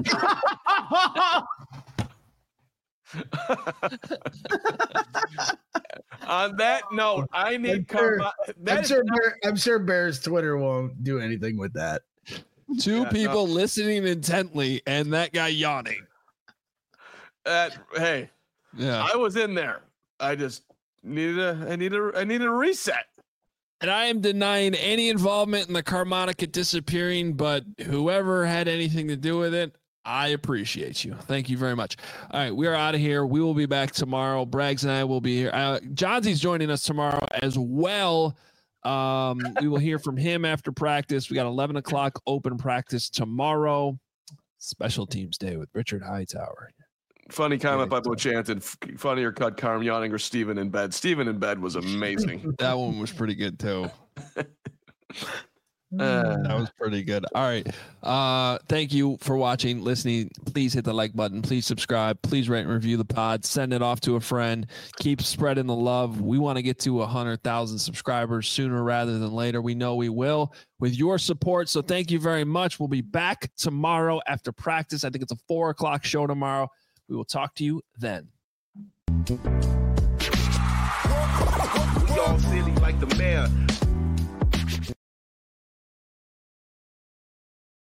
On that note, I need I'm sure Bear's Twitter won't do anything with that. Two people listening intently and that guy yawning. Hey, yeah, I was in there. I just needed a reset. And I am denying any involvement in the Carmonica disappearing, but whoever had anything to do with it, I appreciate you. Thank you very much. All right, we are out of here. We will be back tomorrow. Braggs and I will be here. Johnsie's joining us tomorrow as well. We will hear from him after practice. We got 11 o'clock open practice tomorrow. Special Teams Day with Richard Hightower. Funny comment by Bochanton. Funnier cut Carm yawning or Steven in bed. Steven in bed was amazing. That one was pretty good too. That was pretty good. All right. Thank you for watching, listening. Please hit the like button. Please subscribe. Please rate and review the pod. Send it off to a friend. Keep spreading the love. We want to get to 100,000 subscribers sooner rather than later. We know we will with your support. So thank you very much. We'll be back tomorrow after practice. I think it's a 4 o'clock show tomorrow. We will talk to you then. We all silly like the mayor.